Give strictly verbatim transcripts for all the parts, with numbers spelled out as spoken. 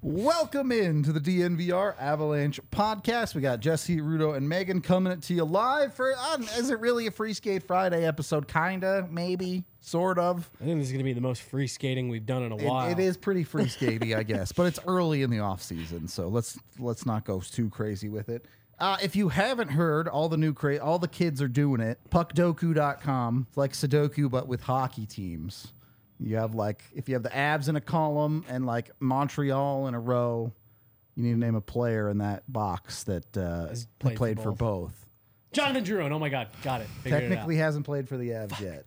Welcome into the D N V R Avalanche podcast. We got Jesse, Rudo, and Megan coming to you live for, uh, is it really a Free Skate Friday episode? Kinda, maybe, sort of. I think this is going to be the most free skating we've done in a while. It, it is pretty free skatey, I guess, but it's early in the off season, so let's let's not go too crazy with it. Uh, if you haven't heard, all the new cra- all the kids are doing it. puck doku dot com. It's like Sudoku, but with hockey teams. You have like, if you have the Avs in a column and like Montreal in a row, you need to name a player in that box that uh, Has played, played played for for both. Jonathan Drouin. Oh my God. Got it. Figured Technically it out. hasn't played for the Avs yet.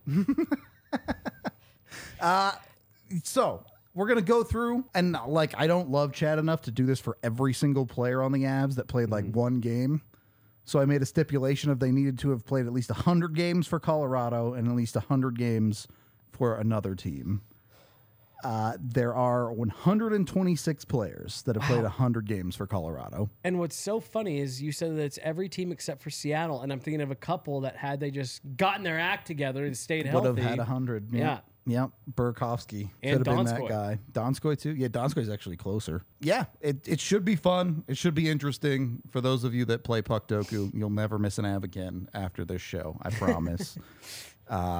uh, so we're going to go through, and like, I don't love Chad enough to do this for every single player on the Avs that played like mm-hmm. one game. So I made a stipulation of they needed to have played at least one hundred games for Colorado and at least one hundred games for another team. Uh, there are one hundred twenty-six players that have wow. played one hundred games for Colorado. And what's so funny is you said that it's every team except for Seattle, and I'm thinking of a couple that had they just gotten their act together and stayed would healthy. Would have had one hundred. Yeah. Yeah. Yep. Burakovsky and could have been Donskoy. that guy. Donskoy too. Yeah, Donskoy's actually closer. Yeah, it, it should be fun. It should be interesting. For those of you that play Puck Doku, you'll never miss an Av again after this show. I promise. uh,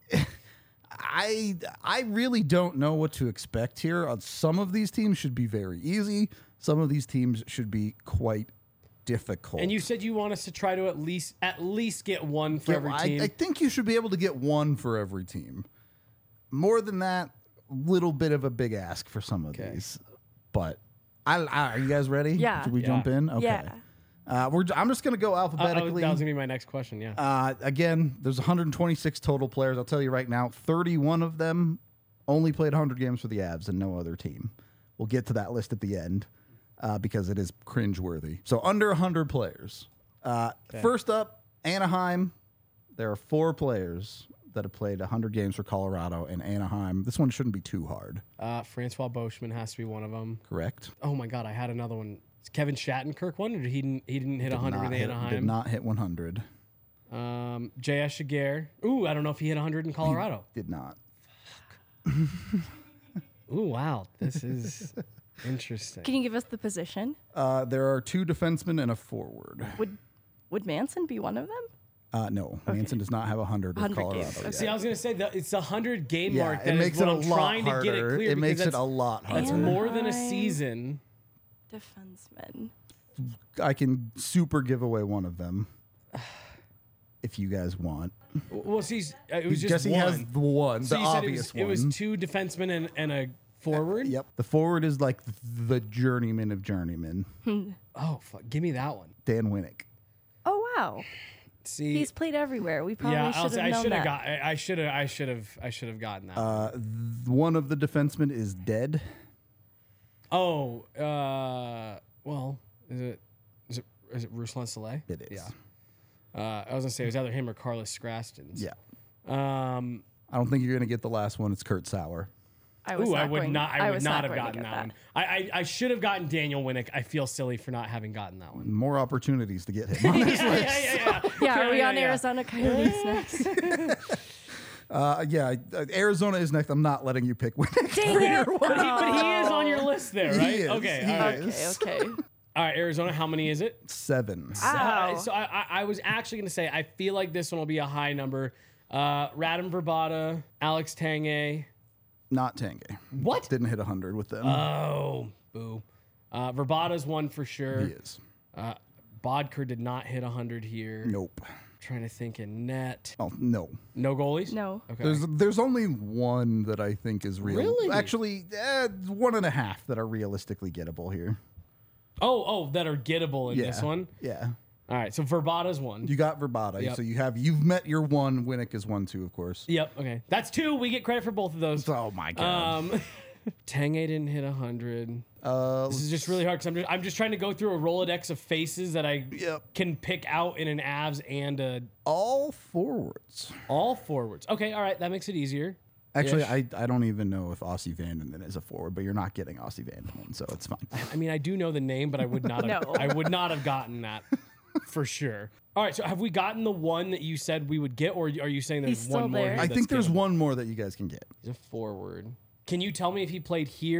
I I really don't know what to expect here. Uh, some of these teams should be very easy. Some of these teams should be quite difficult. And you said you want us to try to at least at least get one for yeah, every I, team. I think you should be able to get one for every team. More than that, little bit of a big ask for some of okay. these. But I, I, are you guys ready? Yeah. Should we yeah. jump in? Okay. Yeah. Uh, we're, I'm just going to go Uh, alphabetically. that was going to be my next question, yeah. Uh, again, there's one hundred twenty-six total players. I'll tell you right now, thirty-one of them only played one hundred games for the Avs and no other team. We'll get to that list at the end uh, because it is cringeworthy. So under one hundred players. Uh, okay. First up, Anaheim. There are four players that have played one hundred games for Colorado and Anaheim. This one shouldn't be too hard. Uh, Francois Beauchemin has to be one of them. Correct. Oh my God, I had another one. Is Kevin Shattenkirk one, or did he didn't, he didn't hit one hundred in hit, Anaheim? Did not hit one hundred. Um, J S Shiger. Ooh, I don't know if he hit one hundred in Colorado. He did not. Ooh, wow. This is interesting. Can you give us the position? Uh, there are two defensemen and a forward. Would Would Manson be one of them? Uh, no, okay. Manson does not have one hundred with Colorado. Games. Okay. See, I was going to say that it's the one hundred game yeah, mark it that makes is what it a I'm lot trying harder. to get it clear. It makes it that's, a lot harder. That's more than a season. Defenseman. I can super give away one of them if you guys want. Well, see, it was just Jesse one. has the one, so the you said obvious it was, one. It was two defensemen and, and a forward? Uh, yep. The forward is like the journeyman of journeymen. Oh, fuck. Give me that one. Dan Winnick. Oh, wow. See, he's played everywhere. We probably yeah, should have I known should have that. got. I should have. I should have. I should have gotten that. Uh, th- one of the defensemen is dead. Oh, uh, well, is it is it is it Ruslan Saleh? It is. Yeah. Uh, I was gonna say it was either him or Carlos Scrastins. Yeah. Um, I don't think you're gonna get the last one. It's Kurt Sauer. I was ooh, not I would going, not. I, I would was not not have going to gotten get that, that. one. I, I I should have gotten Daniel Winnick. I feel silly for not having gotten that one. More opportunities to get him on this yeah, list. yeah, yeah, yeah. Yeah, are we yeah, on yeah. Arizona Coyotes next? Uh, yeah, uh, Arizona is next. I'm not letting you pick Winnick. Dang it. But he, but he is on your list there, He right? is, Okay, he all right. is. Okay, okay. All right, Arizona. How many is it? Seven. Ow. Uh, so I, I, I was actually going to say I feel like this one will be a high number. Uh, Radim Verbata, Alex Tanguay. Not Tanguay. What? Didn't hit one hundred with them. Oh, boo. Uh, Verbata's one for sure. he is. Uh, Bodker did not hit one hundred here. Nope. Trying to think in net. Oh, no. No goalies? No. Okay. There's there's only one that I think is real. Really? Actually, eh, one and a half that are realistically gettable here. oh, oh, that are gettable in Yeah. this one. Yeah. All right, so Verbata's one. You got Verbata. Yep. So you have you've met your one. Winnick is one too, of course. Yep, okay. That's two. We get credit for both of those. Oh my god. Um, Tanguay didn't hit one hundred. uh, This is just really hard because I'm just, I'm just trying to go through a Rolodex of faces that I Yep. can pick out in an Avs and a, all forwards. all forwards. Okay, all right, that makes it easier. Actually, Ish. I, I don't even know if Aussie Vanderman is a forward, but you're not getting Aussie Vanderman, so it's fine. I mean, I do know the name, but I would not have, No. I would not have gotten that for sure. All right, so have we gotten the one that you said we would get, or are you saying there's He's still one more? there. here I that's think there's gettable? one more that you guys can get. He's a forward. Can you tell me if he played here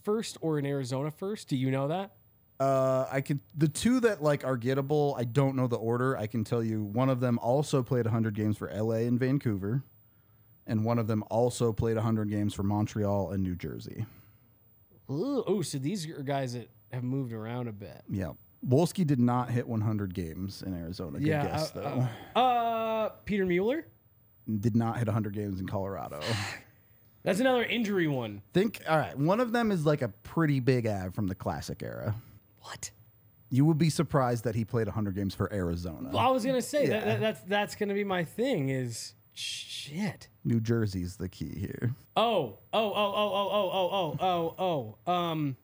first or an Arizona first? Do you know that? Uh, I could the two that like are gettable. I don't know the order. I can tell you one of them also played one hundred games for L A and Vancouver, and one of them also played one hundred games for Montreal and New Jersey. Oh, so these are guys that have moved around a bit. Yeah, Wolski did not hit one hundred games in Arizona. Good Yeah, guess uh, though. uh, uh, Peter Mueller. Did not hit one hundred games in Colorado. That's another injury one. Think all right. One of them is like a pretty big ad from the Classic era. What? You would be surprised that he played one hundred games for Arizona. Well, I was gonna say that, Yeah. that that's that's gonna be my thing. Is shit. New Jersey's the key here. Oh, oh, oh, oh, oh, oh, oh, oh, oh, oh. Um,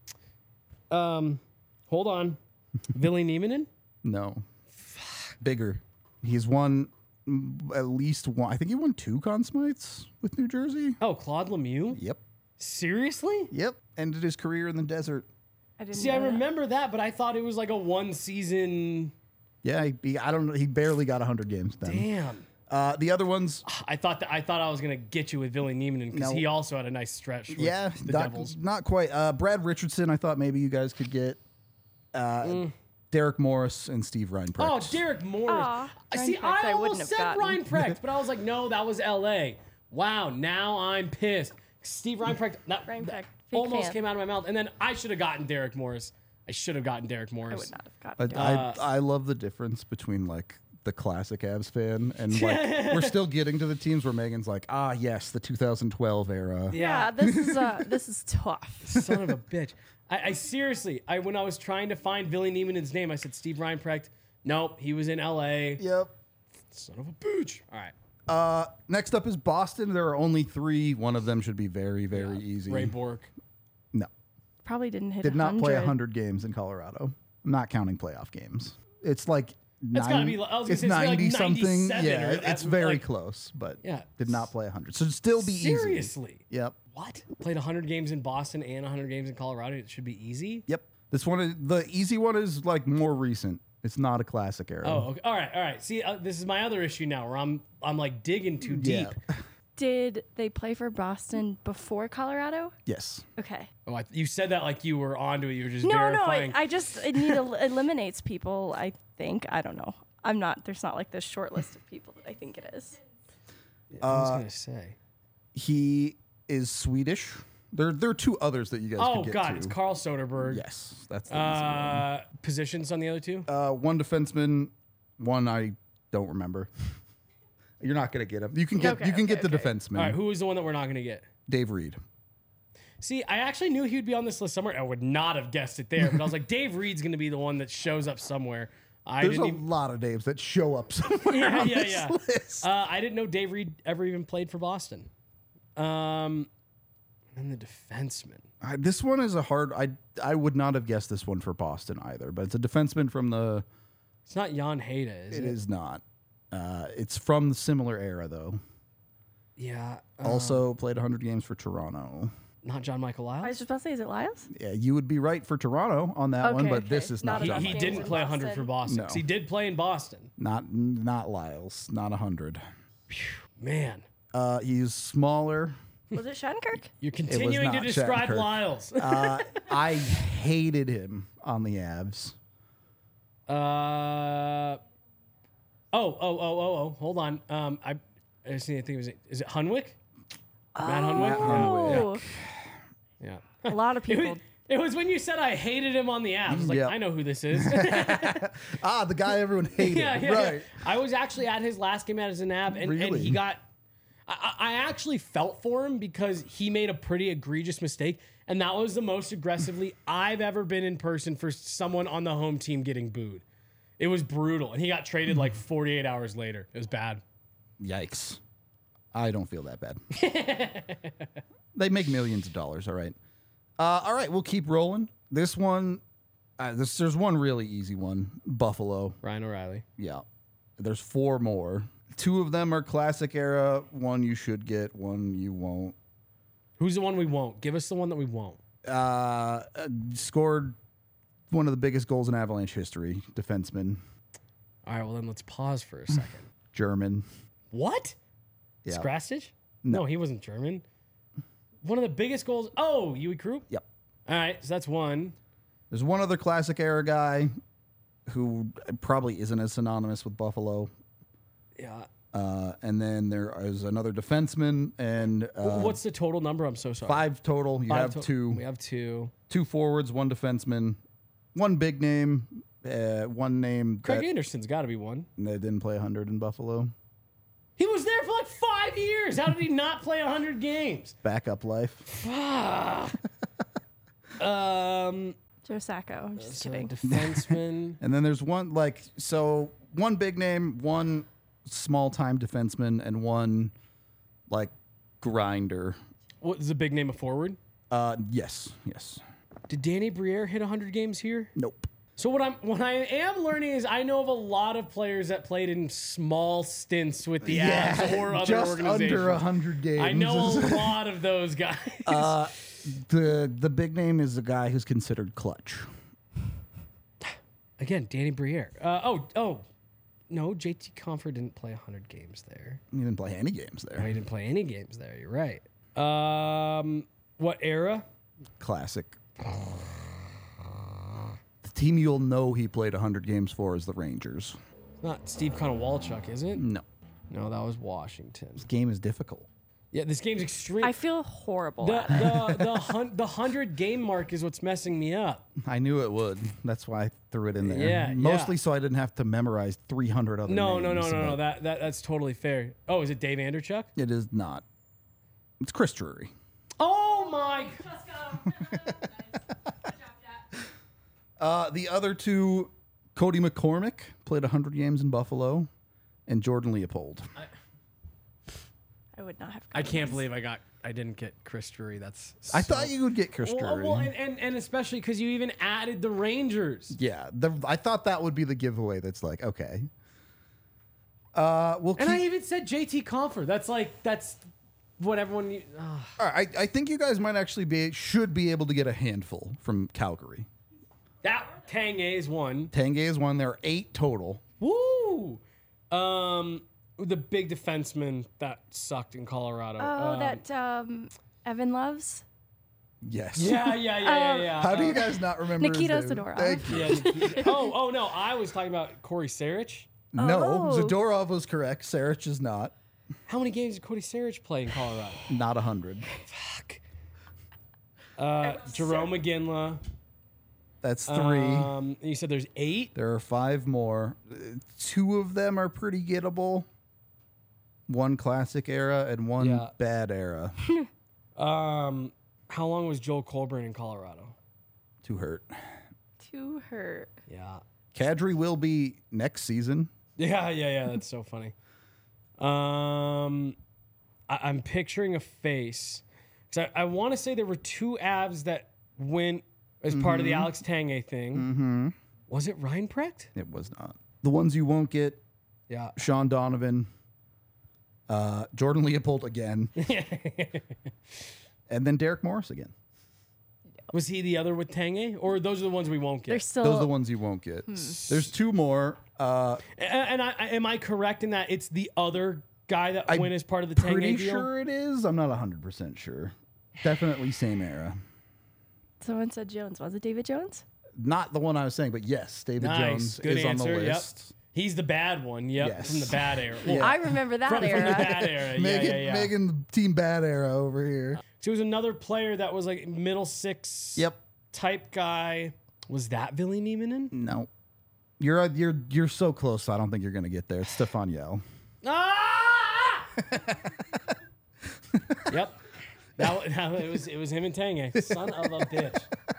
um, hold on. Ville Nieminen? No. Bigger. He's won mm, at least one. I think he won two Conn Smites with New Jersey. Oh, Claude Lemieux? Yep. Seriously? Yep. Ended his career in the desert. I didn't See, know I that. remember that, but I thought it was like a one season. Yeah, he, he- I don't know. He barely got one hundred games then. Damn. Uh, the other ones, I thought that I thought I was gonna get you with Ville Nieminen because No. he also had a nice stretch. With yeah, the not, Devils. not quite. Uh, Brad Richardson, I thought maybe you guys could get. Uh, Derek Morris and Steve Reinprecht. Oh, Derek Morris. Aw, I See, Reinprecht I I wouldn't almost have said gotten. Reinprecht, but I was like, no, that was L A. Wow, now I'm pissed. Steve Reinprecht, that, Reinprecht, that fake almost fan. came out of my mouth, and then I should have gotten Derek Morris. I should have gotten Derek I Morris. would not have I, gotten. it. Uh, I, I love the difference between like the classic Avs fan and like we're still getting to the teams where Megan's like, ah, yes, the two thousand twelve era. yeah, this is uh, this is tough. Son of a bitch. I, I seriously, I when I was trying to find Ville Nieminen's name, I said Steve Reinprecht. Nope, he was in L A. Yep. Son of a bitch. All right. Uh, next up is Boston. There are only three. One of them should be very, very easy. Ray Bork. No, Probably didn't hit. did not one play one hundred games in Colorado. I'm not counting playoff games. It's like It's gotta be- I was gonna it's say it's like ninety something. ninety-seven Yeah, or it's at- very like- close, but Yeah. did not play one hundred. So it'd still be easy. Seriously. Yep. What? Played one hundred games in Boston and one hundred games in Colorado. It should be easy. Yep. This one, is, the easy one is like more recent. It's not a classic era. Oh, okay. All right, all right. See, uh, this is my other issue now, where I'm I'm like digging too deep. Yeah. Did they play for Boston before Colorado? Yes. Okay. Oh, I, you said that like you were onto it. You were just No, no, verifying. I, I just it need el- eliminates people. I think I don't know. I'm not. There's not like this short list of people that I think it is. I was gonna say. He is Swedish. There, there are two others that you guys Oh could get God, to. it's Carl Soderberg. Yes, that's the easy Uh, positions on the other two. one. Uh, one defenseman, one I don't remember. You're not gonna get him. You can get Okay, you can okay, get the okay. defenseman. All right, who is the one that we're not gonna get? Dave Reed. See, I actually knew he'd be on this list somewhere. I would not have guessed it there, but I was like, Dave Reed's gonna be the one that shows up somewhere. I There's a didn't even. lot of names that show up somewhere Yeah, on yeah, this yeah. list. Uh, I didn't know Dave Reed ever even played for Boston. Um, and then the defenseman. I- this one is a hard. I I would not have guessed this one for Boston either. But it's a defenseman from the. It's not Jan Hayda, is it? It is not. Uh, it's from the similar era though. Yeah. uh, Also played one hundred games for Toronto. not John Michael I was Lyles. just about to say, is it Lyles? Yeah, you would be right for Toronto on that one, Okay, but this okay. is Not not. a He, John he Games Michael. didn't in play one hundred Boston. for Boston. No. 'cause He did play in Boston. Not not Lyles. Not a hundred. Man, Uh, he's smaller. Was it Shattenkirk? you're continuing to not describe Shattenkirk. Lyles. Uh, I hated him on the Avs. Uh oh, oh, oh, oh, oh. Hold on. Um, I, I just need to think. Was it? Is it Hunwick? Matt Hunwick. Oh, Yeah. a lot of It was, people. it was when you said I hated him on the app. I was like, Yep. I know who this is. Ah, the guy everyone hated. yeah, yeah, right. yeah. I was actually at his last game as an app, and, and Really? he got. I, I actually felt for him because he made a pretty egregious mistake, and that was the most aggressively I've ever been in person for someone on the home team getting booed. It was brutal, and he got traded like forty-eight hours later. It was bad. Yikes. I don't feel that bad. They make millions of dollars. All right. Uh, all right. We'll keep rolling. This one. Uh, this, there's one really easy one. Buffalo. Ryan O'Reilly. Yeah. There's four more. Two of them are classic era. One you should get. One you won't. Who's the one we won't? Give us the one that we won't. Uh, uh, scored one of the biggest goals in Avalanche history. Defenseman. All right, well then let's pause for a second. German. What? Yeah. Skrastich? No. No, he wasn't German. One of the biggest goals. Oh, Yui Krupp? Yep. All right, so that's one. There's one other classic era guy who probably isn't as synonymous with Buffalo. Yeah. Uh, and then there is another defenseman and uh, What's the total number? I'm so sorry. five total. You Five have to- two, We have two. two forwards, one defenseman, one big name, uh, one name Craig that, Anderson's got to be one. that didn't play one hundred in Buffalo. He was there for like five years. How did he not play one hundred games? Backup life. Um, Joe Sacco. I'm just so kidding. defenseman. And then there's one like so one big name, one small time defenseman, and one like grinder. What is the big name of forward? Uh, yes, yes. Did Danny Briere hit one hundred games here? Nope. So what I'm what I am learning is I know of a lot of players that played in small stints with the Avs or other just organizations. under a hundred games. I know a lot of those guys. Uh, the the big name is the guy who's considered clutch. Again, Danny Briere. Uh, oh, oh, no, J T Compher didn't play one hundred games there. He didn't play any games No, there. he didn't play any games there. You're right. Um, what era? Classic. The team you'll know he played one hundred games for is the Rangers. Not Steve Konowalchuk, is it? No, No, that was Washington. this game is difficult. Yeah, this game's extreme. I feel horrible the at it. the the, hun- the hundred game mark is what's messing me up. I knew it would. That's why I threw it in there. Yeah, Mostly yeah. so I didn't have to memorize three hundred other No, names. no, no, no, no. but That that that's totally fair. Oh, is it Dave Anderchuk? It is not. It's Chris Drury. Oh my! Uh, the other two, Cody McCormick, played one hundred games in Buffalo, and Jordan Leopold. I would not have. I gotten can't this. believe I got I didn't get Chris Drury. That's I so- thought you would get Chris Well, Drury. well, and, and and especially because you even added the Rangers. yeah, the, I thought that would be the giveaway. That's like, okay. Uh, we'll And keep, I even said J T Compher. That's like that's what everyone. u- ugh. all right, I, I think you guys might actually be should be able to get a handful from Calgary. That Tanguay is one. Tanguay is one. There are eight total. Woo! Um, the big defenseman that sucked in Colorado. Oh, Um, that um, Evan loves. Yes. Yeah, yeah, yeah, yeah, yeah. How do you Uh, guys not remember? his Nikita name? Zadorov. Thank you. Yeah. Nikita- oh, oh no, I was talking about Corey Sarich. No, Oh. Zadorov was correct. Sarich is not. How many games did Cody Sarich play in Colorado? Not a hundred. Fuck. Uh, Jerome McGinley. That's three. Um, you said there's eight. There are five more. Uh, Two of them are pretty gettable. One classic era and one Yeah. bad era. Um, how long was Joel Colburn in Colorado? Too hurt. Too hurt. Yeah. Kadri will be next season. Yeah, yeah, yeah. That's so funny. Um, I, I'm picturing a face because I, I want to say there were two Avs that went as part of the Alex Tanguay thing. Mm-hmm. Was it Reinprecht? It was not. The ones you won't get, Yeah. Sean Donovan, uh, Jordan Leopold again, and then Derek Morris again. Was he the other with Tanguay, or those are the ones we won't get? They're still. Those are the ones you won't get. There's two more. Uh, A- and I, I- am I correct in that it's the other guy that I'm went as part of the pretty Tanguay deal? sure it is. I'm not one hundred percent sure. Definitely same era. Someone said Jones. Was it David Jones? Not the one I was saying, but yes, David Nice. Jones Good is answer. on the Yep. list. He's the bad one. Yep, Yes. from the bad era. Well, Yeah. I remember that from, from era. the bad era. Megan, yeah, yeah, yeah. Megan, team bad era over here. So it was another player that was like middle six Yep. type guy. Was that Ville Nieminen? No, you're uh, you're you're so close. I don't think you're gonna get there. It's Stefan Yell. Ah! Yep. That, wa- that wa- it was it was him and Tanguay. Son of a bitch.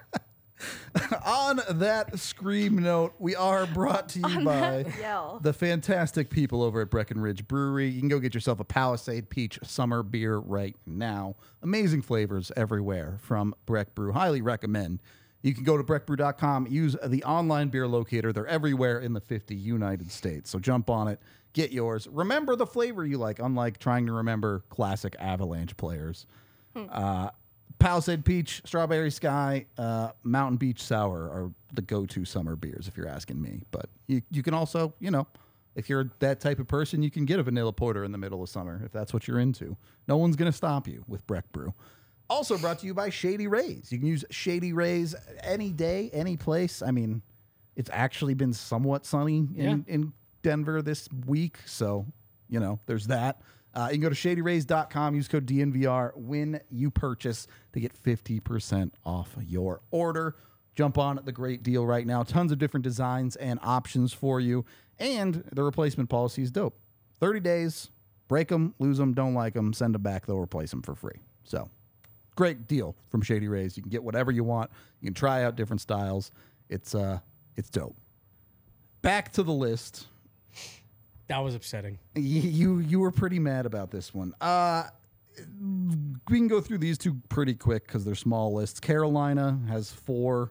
On that scream note, we are brought to you by Yell. the fantastic people over at Breckenridge Brewery. You can go get yourself a Palisade Peach Summer Beer right now. Amazing flavors everywhere from Breck Brew. Highly recommend. You can go to breck brew dot com, use the online beer locator. They're everywhere in the fifty United States. So jump on it, get yours. Remember the flavor you like, unlike trying to remember classic Avalanche players. Uh, Palisade Peach, Strawberry Sky, uh, Mountain Beach Sour are the go-to summer beers, if you're asking me. But you, you can also, you know, if you're that type of person, you can get a vanilla porter in the middle of summer if that's what you're into. No one's going to stop you with Breck Brew. Also brought to you by Shady Rays. You can use Shady Rays any day, any place. I mean, it's actually been somewhat sunny in, Yeah. in Denver this week. So, you know, there's that. Uh, you can go to shady rays dot com, use code D N V R when you purchase to get fifty percent off your order. Jump on the great deal right now. Tons of different designs and options for you. And the replacement policy is dope. thirty days, break them, lose them, don't like them, send them back. They'll replace them for free. So, great deal from Shady Rays. You can get whatever you want. You can try out different styles. It's uh, it's dope. Back to the list. That was upsetting. Y- You you were pretty mad about this one. Uh, we can go through these two pretty quick because they're small lists. Carolina has four.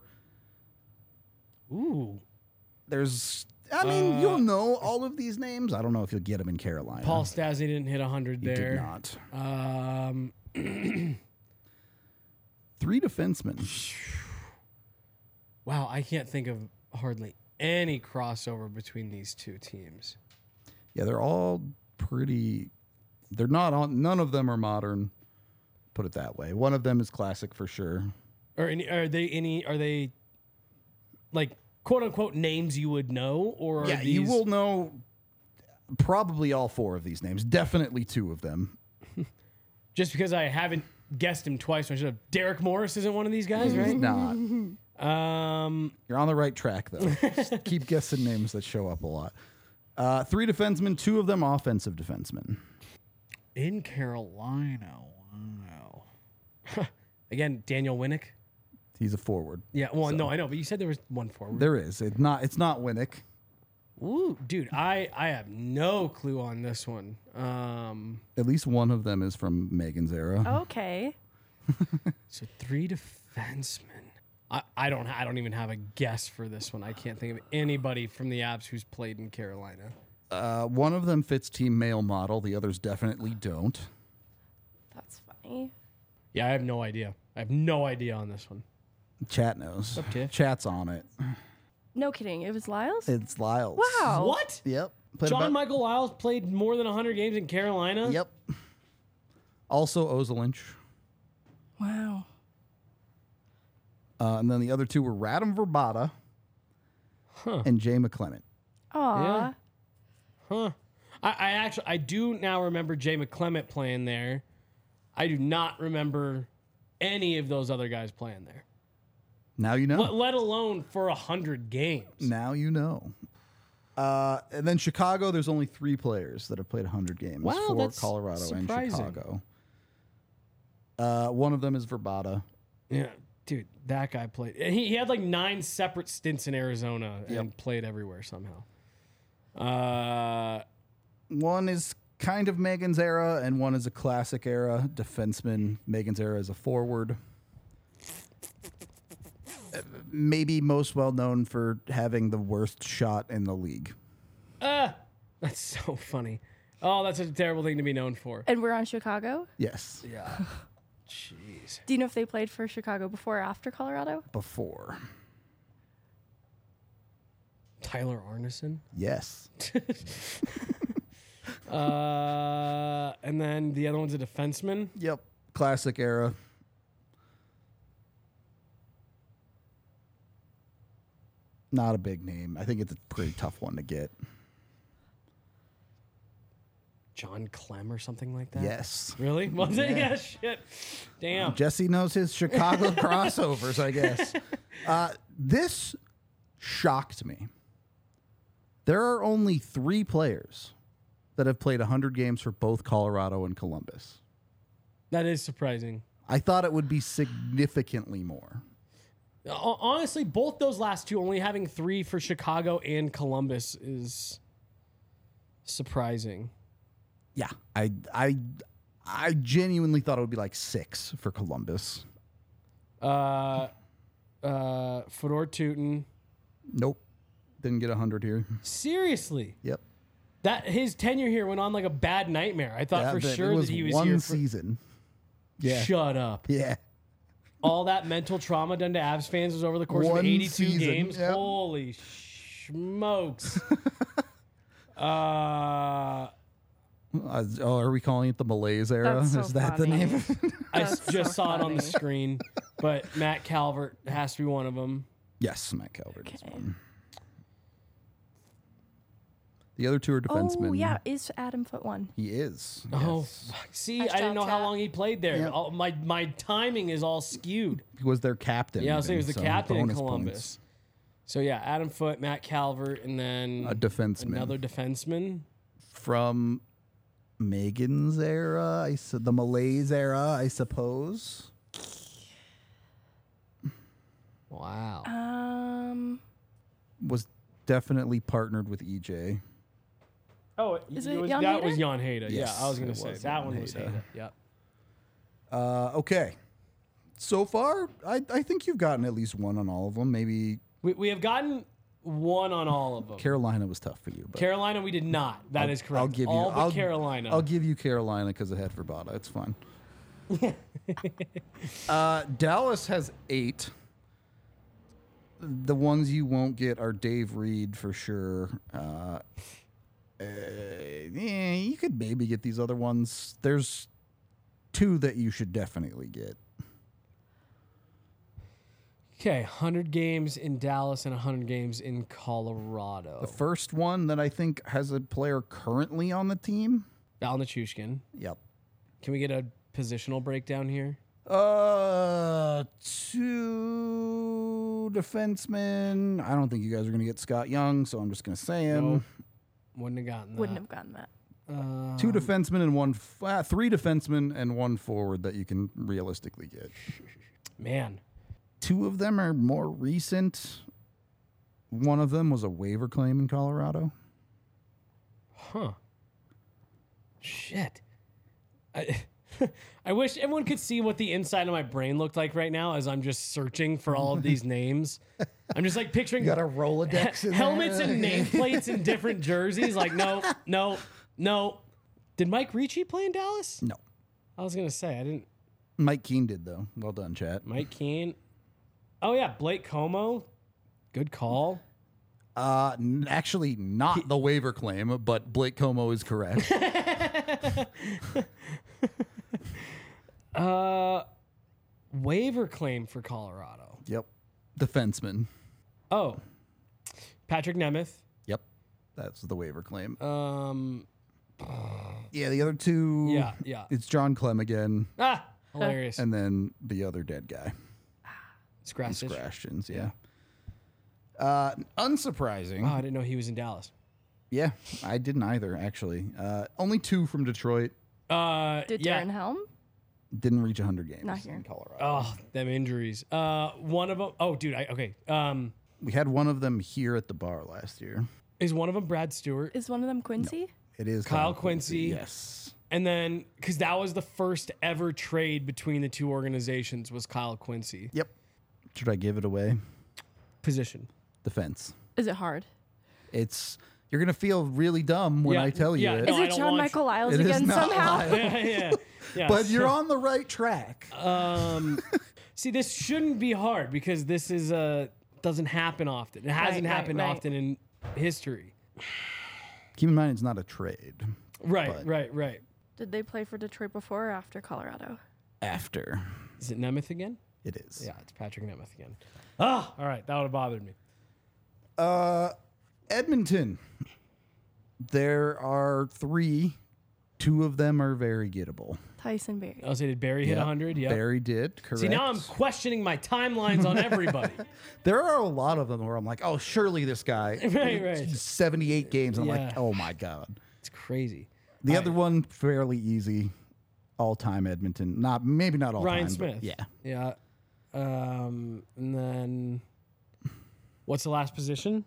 Ooh. There's, I mean, you'll know all of these names. I don't know if you'll get them in Carolina. Paul Stastny didn't hit one hundred he there. did not. Um, Three defensemen. wow, I can't think of hardly any crossover between these two teams. Yeah, they're all pretty. They're not on. None of them are modern. Put it that way. One of them is classic for sure. Or any, are they any? Are they like quote unquote names you would know? Or are Yeah, these, you will know probably all four of these names. Definitely two of them. just because I haven't guessed him twice, I should have. Derek Morris isn't one of these guys, right? Not. Um, You're on the right track though. Just keep guessing names that show up a lot. Uh, three defensemen, two of them offensive defensemen. in Carolina. Wow. Again, Daniel Winnick. He's a forward. Yeah, well, no, I know, but you said there was one forward. There is. It's not. It's not Winnick. Ooh, dude, I, I have no clue on this one. Um, At least one of them is from Megan's era. Okay. so three defensemen. I, I don't I don't even have a guess for this one. I can't think of anybody from the Abs who's played in Carolina. Uh, one of them fits team male model. The others definitely don't. That's funny. Yeah, I have no idea. I have no idea on this one. Chat knows. Up, Tiff? Chat's on it. No kidding. It was Lyles? It's Lyles. Wow. What? Yep. Played John about- Michael Lyles played more than one hundred games in Carolina? Yep. Also Ozelinch. Wow. Uh, and then the other two were Radim Verbata Huh. and Jay McClement. Aw. Yeah. Huh. I, I actually I do now remember Jay McClement playing there. I do not remember any of those other guys playing there. Now you know. Let, let alone for a hundred games. Now you know. Uh, and then Chicago, there's only three players that have played one hundred games Wow, for that's Colorado surprising. and Chicago. Uh, one of them is Verbata. Yeah, dude, that guy played. He, he had like nine separate stints in Arizona and Yep. played everywhere somehow. Uh, One is kind of Megan's era, and one is a classic era defenseman. Megan's era is a forward. Uh, Maybe most well known for having the worst shot in the league. ah, that's so funny. Oh, that's a terrible thing to be known for. And we're on Chicago? Yes, Yeah. Jeez. Do you know if they played for Chicago before or after Colorado? before. Tyler Arneson. Yes. Uh, and then the other one's a defenseman. Yep. Classic era. Not a big name. I think it's a pretty tough one to get. John Clem or something like that. Yes. Really? Was it? Yeah. Yeah. Shit. Damn. Jesse knows his Chicago crossovers, I guess. Uh, this shocked me. There are only three players that have played one hundred games for both Colorado and Columbus. That is surprising. I thought it would be significantly more. Ho- Honestly, both those last two, only having three for Chicago and Columbus, is surprising. Yeah, I I I genuinely thought it would be like six for Columbus. Uh, uh, Fedor Tutin. Nope, didn't get one hundred here. Seriously, Yep. that his tenure here went on like a bad nightmare. I thought Yeah, for but sure it was that he was one here for. season. Yeah. Shut up. Yeah. All that mental trauma done to Avs fans was over the course One of eighty-two season, games. yep. Holy smokes. uh, Uh, oh, are we calling it the Malaise era? That's so Is that the funny. name of it? I That's s- just so saw it on the funny. screen, but Matt Calvert has to be one of them. Yes, Matt Calvert is Okay. one. The other two are defensemen. Oh yeah, is Adam Foote one? He is. Oh, yes. fuck. See, Nice I didn't job, know how Chat. long he played there. Yeah. All, my my timing is all skewed. He was their captain. Yeah, I was saying he was even, the so captain in bonus Columbus. points. So yeah, Adam Foote, Matt Calvert, and then A defenseman. another defenseman. From Megan's era, I su- the Malaise era, I suppose. Wow. Um, Was definitely partnered with E J. Oh, Is it it was, Jan that was Hayter? Jan Hayter. Yes, yeah, I was gonna it say was that Jan one was Hayter. Hayter. Yeah. Uh, okay. So far, I, I think you've gotten at least one on all of them. Maybe We we have gotten one on all of them. Carolina was tough for you. But Carolina, we did not. That is correct. I'll give you all but I'll, Carolina. I'll give you Carolina because I had Verbata. It's fine. uh, Dallas has eight. The ones you won't get are Dave Reed for sure. Uh, uh, yeah, you could maybe get these other ones. There's two that you should definitely get. Okay, one hundred games in Dallas and one hundred games in Colorado. The first one that I think has a player currently on the team. Val Nichushkin. Yep. Can we get a positional breakdown here? Uh, two defensemen. I don't think you guys are going to get Scott Young, so I'm just going to say him. Nope. Wouldn't have gotten that. wouldn't have gotten that. Uh, Two defensemen and one, f- uh, three defensemen and one forward that you can realistically get. Man. Two of them are more recent. One of them was a waiver claim in Colorado. Huh. Shit. I I wish everyone could see what the inside of my brain looked like right now as I'm just searching for all of these names. I'm just like picturing You got a Rolodex in helmets there? and nameplates in different jerseys. Like, no, no, no. Did Mike Ricci play in Dallas? No. I was gonna say I didn't. Mike Keane did, though. Well done, chat. Mike Keane. Oh yeah, Blake Como. Good call. Uh, n- actually, not the waiver claim, but Blake Como is correct. Uh, waiver claim for Colorado. Yep. Defenseman. Oh, Patrick Nemeth. Yep. That's the waiver claim. Um, Yeah, the other two. yeah, yeah. It's John Clem again, Ah, hilarious. and then the other dead guy, Scratch. Scrashtions. Yeah. Uh, unsurprising. Oh, I didn't know he was in Dallas. Yeah, I didn't either. Actually, uh, only two from Detroit Uh, Did yeah. Darren Helm? didn't reach one hundred games Not here. in Colorado. Oh, them injuries. Uh, one of them. Oh, dude. I okay. Um, We had one of them here at the bar last year. is one of them Brad Stewart? Is one of them Quincy? It is Kyle Quincy. Yes. And then, because that was the first ever trade between the two organizations, was Kyle Quincy. Yep. Should I give it away? Position. Defense. Is it hard? It's you're gonna feel really dumb when Yeah, I tell you yeah, it, No, Is I it don't John want Michael Lyles It is again not somehow? Lyles. yeah, yeah, yeah. but you're on the right track. Um, see, this shouldn't be hard because this is uh doesn't happen often. It hasn't Right, right, happened right. often in history. Keep in mind, it's not a trade. Right, But- right, right. Did they play for Detroit before or after Colorado? After Is it Nemeth again? it is. Yeah, it's Patrick Nemeth again. Ah, all right, that would have bothered me. Uh, Edmonton. There are three. Two of them are very gettable. Tyson Berry. I was say, did Barry hit Yep. one hundred? Yeah. Barry did. Correct. See, now I'm questioning my timelines on everybody. There are a lot of them where I'm like, oh, surely this guy. Right, right. seventy-eight games. I'm Yeah. like, oh my god. It's crazy. The All other right. one fairly easy. All time Edmonton. Not maybe not all Ryan time. but Smith. Yeah. Yeah. Um, and then what's the last position?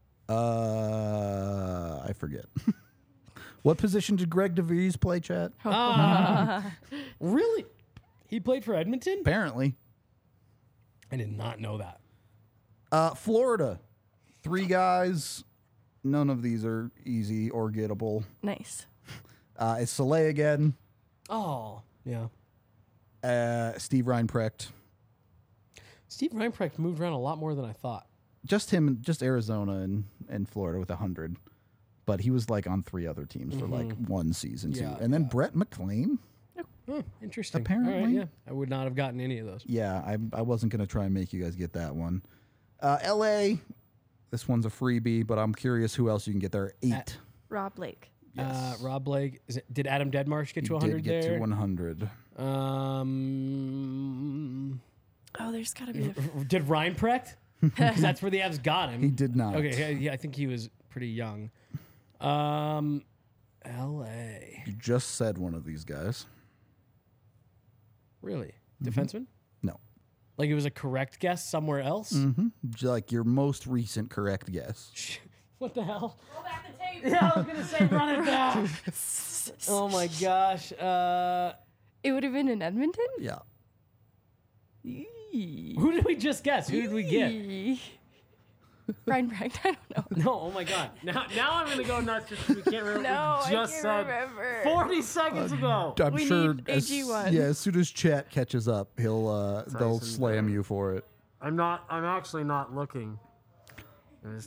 Uh, I forget. What position did Greg DeVries play, chat? Ah, really? He played for Edmonton? Apparently. I did not know that. Uh, Florida. Three guys. None of these are easy or gettable. Nice. Uh, it's Soleil again. Oh, yeah. Uh, Steve Reinprecht. Steve Reinprecht moved around a lot more than I thought. Just him, just Arizona and, and Florida with a hundred. but he was like on three other teams for like one season Yeah, too. And then yeah. Brett McLean. Hmm, interesting. Apparently. All right, yeah, I would not have gotten any of those. Yeah, I, I wasn't going to try and make you guys get that one. Uh, L A, this one's a freebie, but I'm curious who else you can get there. Eight. At- Rob Blake. Uh, Rob Blake. Is it, did Adam Deadmarsh get He to one did hundred get there? to one hundred. Um, Oh, there's got to be. A did Ryan Precht? Because that's where the Avs got him. He did not. Okay, yeah, yeah, I think he was pretty young. Um, L A. You just said one of these guys. Really? Defenseman? No. Like it was a correct guess somewhere else? Mm-hmm. Like your most recent correct guess. What the hell? Roll back the tape. Yeah, I was gonna say run it back. Oh my gosh. Uh, It would have been in Edmonton. Yeah. who did we just guess? Who did we get? Ryan Brecht. I don't know. No, oh my god. Now, now I'm gonna go nuts because we can't remember No, what I we just can't said remember. forty seconds ago. I'm We sure need as, A G one. yeah, as soon as chat catches up, he'll uh, they'll Tyson slam Barrie. you for it. I'm not. I'm actually not looking. There's-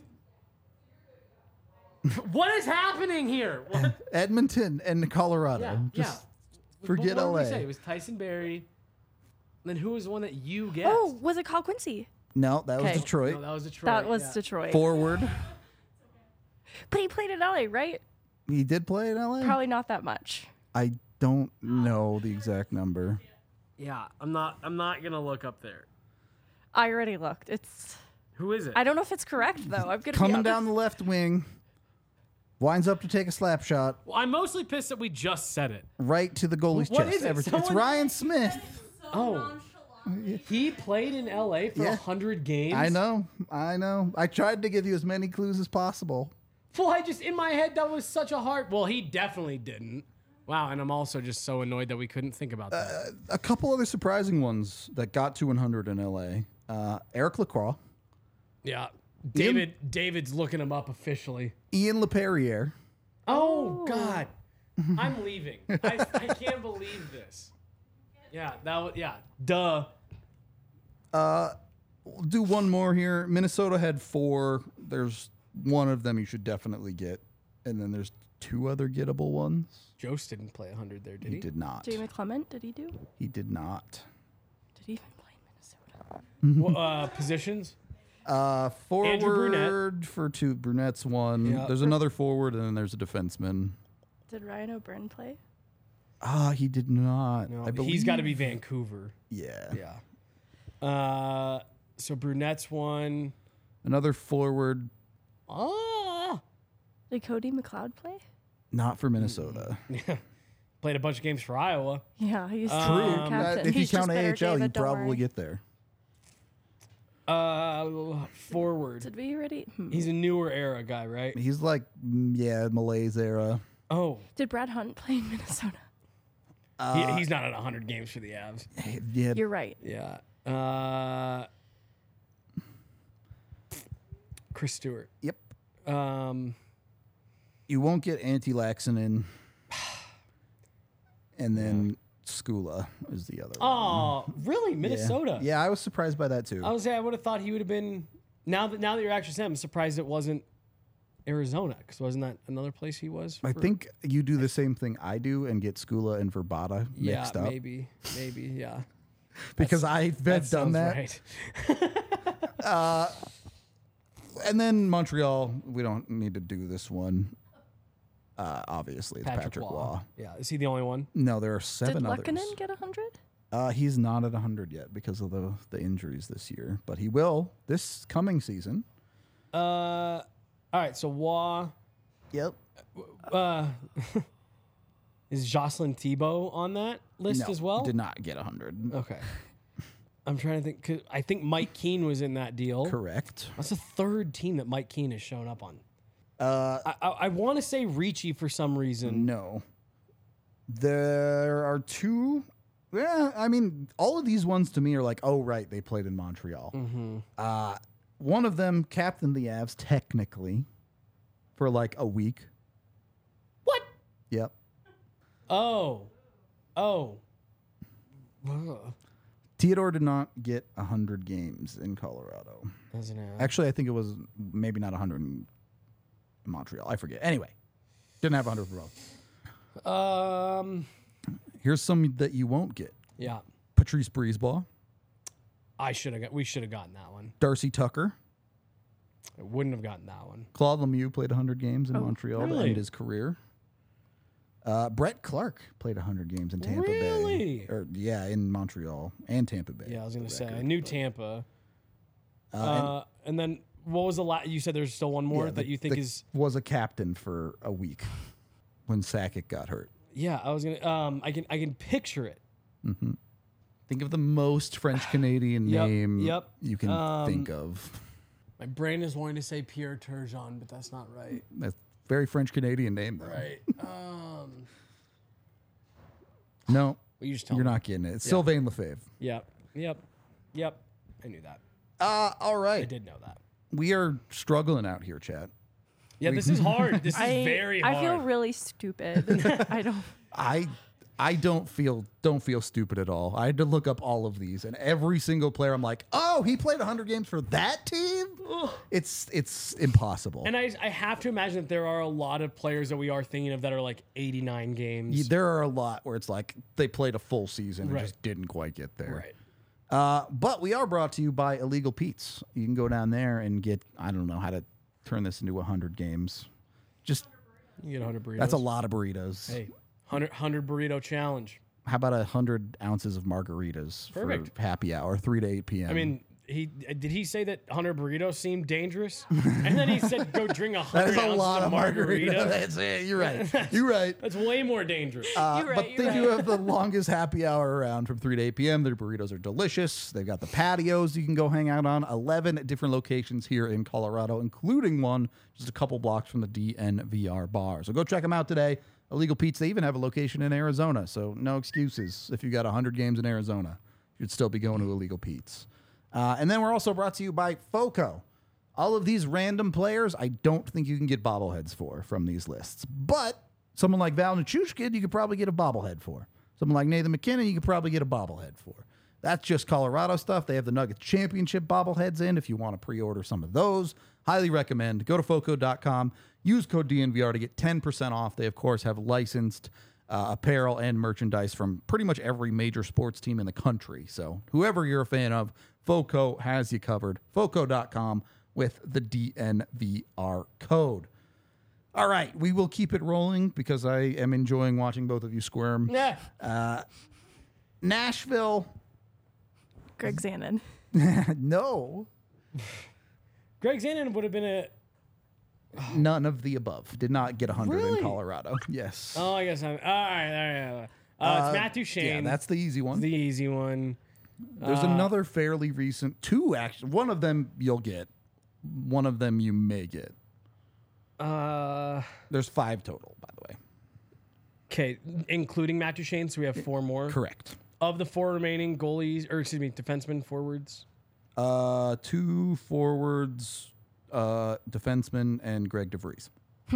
what is happening here? What? Edmonton and Colorado. Yeah, Just yeah. forget what, what L did A. we say? It was Tyson Berry. Then who was the one that you guessed? Oh, was it Kyle Quincy? No, that was Okay. Detroit. No, that was Detroit. That was yeah. Detroit. Forward. But he played in L A, right? He did play in L A? Probably not that much. I don't know the exact number. Yeah, I'm not. I'm not gonna look up there. I already looked. It's. Who is it? I don't know if it's correct though. I'm gonna be Coming honest. down the left wing. Winds up to take a slap shot Well, I'm mostly pissed that we just said it. right to the goalie's What chest. is it? Everton. It's Someone- Ryan Smith. Oh, he played in L A for a Yeah. hundred games. I know. I know. I tried to give you as many clues as possible. Well, I just in my head that was such a hard. Well, he definitely didn't. Wow, and I'm also just so annoyed that we couldn't think about that. A couple other surprising ones that got to one hundred in L A. Uh, Eric Lacroix, Yeah, David. David's looking him up officially. Ian LePerriere, Oh God, I'm leaving. I, I can't believe this. Yeah, that was yeah. Duh. We'll do one more here. Minnesota had four. There's one of them you should definitely get. And then there's two other gettable ones. Jost didn't play one hundred there, did he? He did not. Jamie Clement, did he do? He did not. Did he even play in Minnesota? Well, uh, positions. Uh, Andrew Brunette. forward for two. Brunette's one. Yeah. There's another forward, and then there's a defenseman. Did Ryan O'Byrne play? Ah, he did not. No, I believe. he's got to be Vancouver. Yeah. Yeah. Uh, so Brunette's one. Another forward, Ah. Did Cody McLeod play? not for Minnesota. Played a bunch of games for Iowa. Yeah, he's True. true. Uh, Captain. if you He's just count A better, H L, you David, don't probably worry. get there. Uh, forward. Did we already? Hmm. He's a newer era guy, right? He's like, mm, yeah, Malays era. Oh, Did Brad Hunt play in Minnesota? he, he's not at one hundred games for the Avs. Yeah, You're right. Yeah. Uh, Chris Stewart. yep. Um, You won't get Antti Laxinen. And then Skula is the other one. oh, really? Yeah. Minnesota? Yeah, I was surprised by that too. I was say I would have thought he would have been. Now that now that you're actually saying, I'm surprised it wasn't Arizona because wasn't that another place he was? I for- think you do the same thing I do and get Skula and Verbata Yeah, mixed up. maybe, maybe, yeah. Because I've That done sounds that. right. And then Montreal, we don't need to do this one. Uh, obviously, it's Patrick, Patrick Waugh. Waugh. Yeah, is he the only one? No, there are Did seven others. Lukkonen get one hundred? Uh, he's not at one hundred yet because of the, the injuries this year, but he will this coming season. Uh, all right. So Waugh. Yep. Uh, is Jocelyn Thibault on that list No, as well? did not get one hundred. Okay. I'm trying to think. 'Cause I think Mike Keane was in that deal. Correct. That's the third team that Mike Keane has shown up on. Uh, I, I, I want to say Ricci for some reason. no. There are two. Yeah, I mean, all of these ones to me are like, oh, right, they played in Montreal. Mm-hmm. Uh, one of them captained the Avs technically for like a week. What? Yep. Oh. Oh. Ugh. Theodore did not get one hundred games in Colorado. Doesn't have. Actually, I think it was maybe not one hundred. Montreal. I forget. Anyway, didn't have one hundred for both. Um, Here's some that you won't get. yeah, Patrice Brisebois, I should have got. We should have gotten that one. Darcy Tucker, I wouldn't have gotten that one. Claude Lemieux played one hundred games in Montreal to really? end his career. Uh, Brett Clark played one hundred games in Tampa Really? Bay. Or, yeah, in Montreal and Tampa Bay. Yeah, I was gonna for say. record. I knew Tampa. Uh, Uh, and, then what was the last? You said there's still one more Yeah, that the- you think the- is. was a captain for a week when Sakic got hurt. Yeah, I was gonna. Um, I can. I can picture it. Think of the most French Canadian Yep, name yep. you can Um, think of. My brain is wanting to say Pierre Turgeon, but that's not right. That's a very French Canadian name, though. Right. Um, No, well, you just tell you're me. not getting it. It's Sylvain Lefebvre. Yep. Yep. Yep. I knew that. Uh, all I right. did know that. We are struggling out here, Chad. Yeah, this is hard. This is I, very hard. I feel really stupid. I don't. I I don't feel don't feel stupid at all. I had to look up all of these, and every single player, I'm like, oh, he played one hundred games for that team. It's it's impossible. And I, I have to imagine that there are a lot of players that we are thinking of that are like eighty-nine games. Y- there are a lot where it's like they played a full season and Right. just didn't quite get there. Right. Uh, but we are brought to you by Illegal Pete's. You can go down there and get, I don't know how to turn this into one hundred games. Just, You get one hundred burritos. that's a lot of burritos. Hey, one hundred, one hundred burrito challenge. How about one hundred ounces of margaritas Perfect. for happy hour, three to eight p.m.? I mean, he did he say that one hundred burritos seemed dangerous? And then he said, go drink one hundred that is a ounces lot of of margarita. margarita. That's it. You're right. You're right. That's way more dangerous. Uh, You're right, but you're they right. do have the longest happy hour around from three to eight p.m. Their burritos are delicious. They've got the patios you can go hang out on. eleven different locations here in Colorado, including one just a couple blocks from the D N V R bar. So go check them out today. Illegal Pete's, they even have a location in Arizona. So no excuses. If you got one hundred games in Arizona, you'd still be going to Illegal Pete's. Uh, and then we're also brought to you by FOCO. All of these random players, I don't think you can get bobbleheads for from these lists. But someone like Val Nichushkin, you could probably get a bobblehead for. Someone like Nathan McKinnon, you could probably get a bobblehead for. That's just Colorado stuff. They have the Nuggets Championship bobbleheads in if you want to pre-order some of those. Highly recommend. Go to foco dot com. Use code D N V R to get ten percent off. They, of course, have licensed uh, apparel and merchandise from pretty much every major sports team in the country. So whoever you're a fan of, FOCO has you covered. foco dot com with the D N V R code. All right, we will keep it rolling because I am enjoying watching both of you squirm. yeah. Nashville, Greg Zanon. no, Greg Zanon would have been a. none of the above. Did not get one hundred Really? in Colorado. Yes. Oh, I guess I'm. All right. All right. All right. Uh, it's Matthew Shane. Yeah, that's the easy one. the easy one. There's another fairly recent, two actually. One of them you'll get. One of them you may get. Uh, There's five total, by the way. okay, including Matthew Shane, so we have four more. Correct. Of the four remaining goalies, or excuse me, defensemen, forwards. Uh, two forwards, uh, defenseman, and Greg DeVries.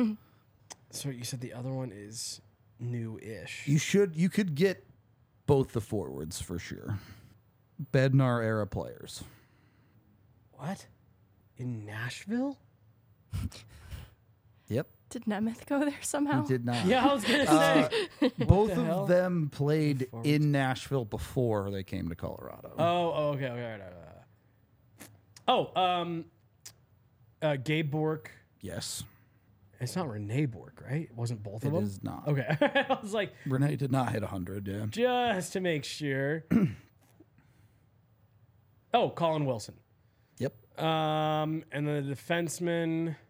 So you said the other one is new-ish. You should. You could get both the forwards for sure. Bednar era players. What? In Nashville? Yep. Did Nemeth go there somehow? He did not. Yeah, I was gonna Uh, say. both the of hell? them played Forwards. in Nashville before they came to Colorado. Oh, oh, okay, okay, all right, all right. Oh, um, uh, Gabe Bork. Yes. It's not Renee Bork, right? It wasn't both It of them. is not. Okay, I was like, Renee did not hit one hundred, yeah. just to make sure. Oh, Colin Wilson. Yep. Um, and the defenseman. You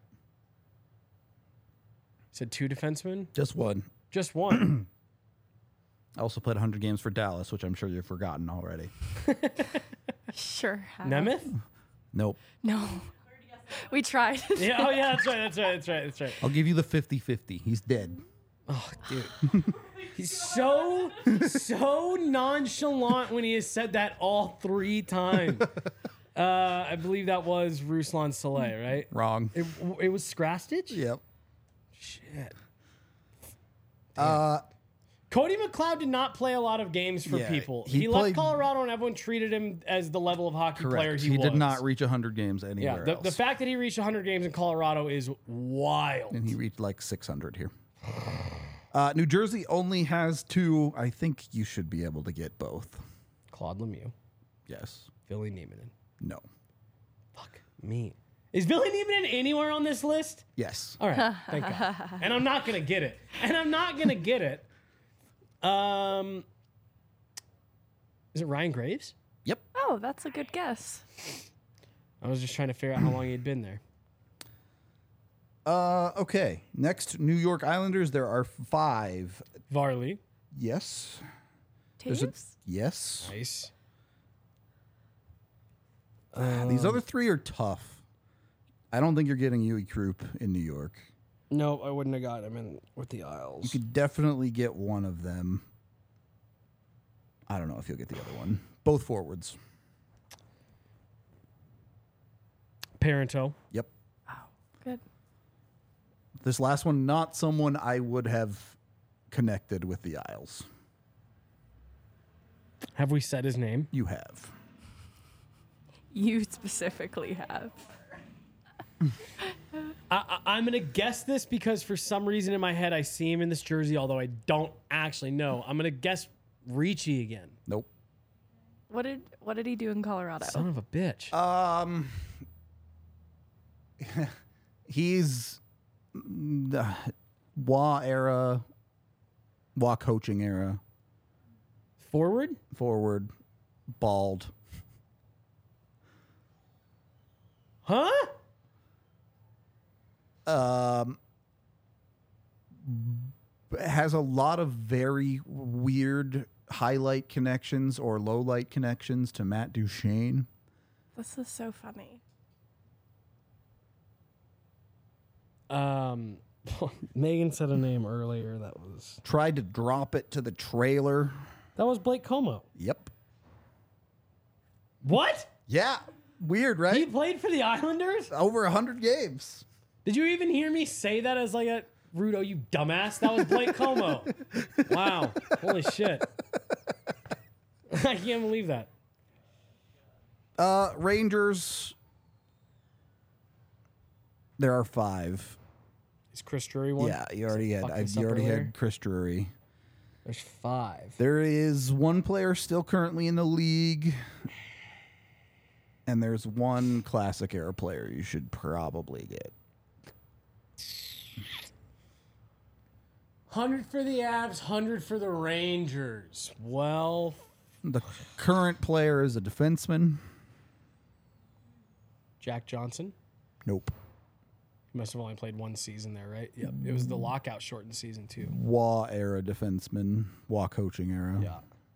said two defensemen? Just one. Just one. I also played one hundred games for Dallas, which I'm sure you've forgotten already. Sure. have. Nemeth? Nope. No. We tried. Yeah. Oh, yeah. That's right. That's right. That's right. That's right. I'll give you the fifty-fifty. He's dead. Oh, dude. He's so, so nonchalant when he has said that all three times. Uh, I believe that was Ruslan Saleh, right? Wrong. It, it was Scrastich? Yep. Shit. Uh, Cody McLeod did not play a lot of games for Yeah, people. he He, played- left Colorado and everyone treated him as the level of hockey player Correct. he, He, was. did not reach one hundred games Yeah, anywhere the, else. the fact that he reached one hundred games in Colorado is wild. and he reached like six hundred here. Uh, New Jersey only has two. I think you should be able to get both. Claude Lemieux, Yes. Billy Niemanen. No. Fuck me. Is Billy Niemanen anywhere on this list? Yes. All right, thank God. And I'm not gonna get it. And I'm not gonna get it. Um, is it Ryan Graves? Yep. Oh, that's a good guess. I was just trying to figure out how long he'd been there. Uh, okay. Next, New York Islanders. There are five. Varley, Yes. There's a- Taves? yes. nice. Uh, These other three are tough. I don't think you're getting Yui Krupp in New York. No, I wouldn't have got him in with the Isles. You could definitely get one of them. I don't know if you'll get the other one. Both forwards. Parento. Yep. Good. This last one, not someone I would have connected with the Isles. Have we said his name? You have. You specifically have. I, I, I'm gonna guess this because for some reason in my head I see him in this jersey, although I don't actually know. I'm gonna guess Ricci again. Nope. What did what did he do in Colorado? Son of a bitch. Um, he's the Wah era, Wah coaching era, Forward? forward, bald. Huh? Um, has a lot of very weird highlight connections or low light connections to Matt Duchene. This is so funny. Um, Megan said a name earlier. That was Tried to drop it to the trailer. that was Blake Como. Yep. What? Yeah. Weird, He right? played for the Islanders? Over a hundred games. Did you even hear me say that as like a Rudo, you dumbass? That was Blake Como. Wow. Holy shit. I can't believe that. Uh, Rangers. There are five. Is Chris Drury one? Yeah, you already had. fuck I, this you up already earlier? had Chris Drury. There's five. There is one player still currently in the league, and there's one classic era player you should probably get. one hundred for the Avs, one hundred for the Rangers. Well, The current player is a defenseman. Jack Johnson. Nope. He must have only played one season there, right? Yep. It was the lockout shortened season too. Wah era defenseman. Wah coaching era. Yeah.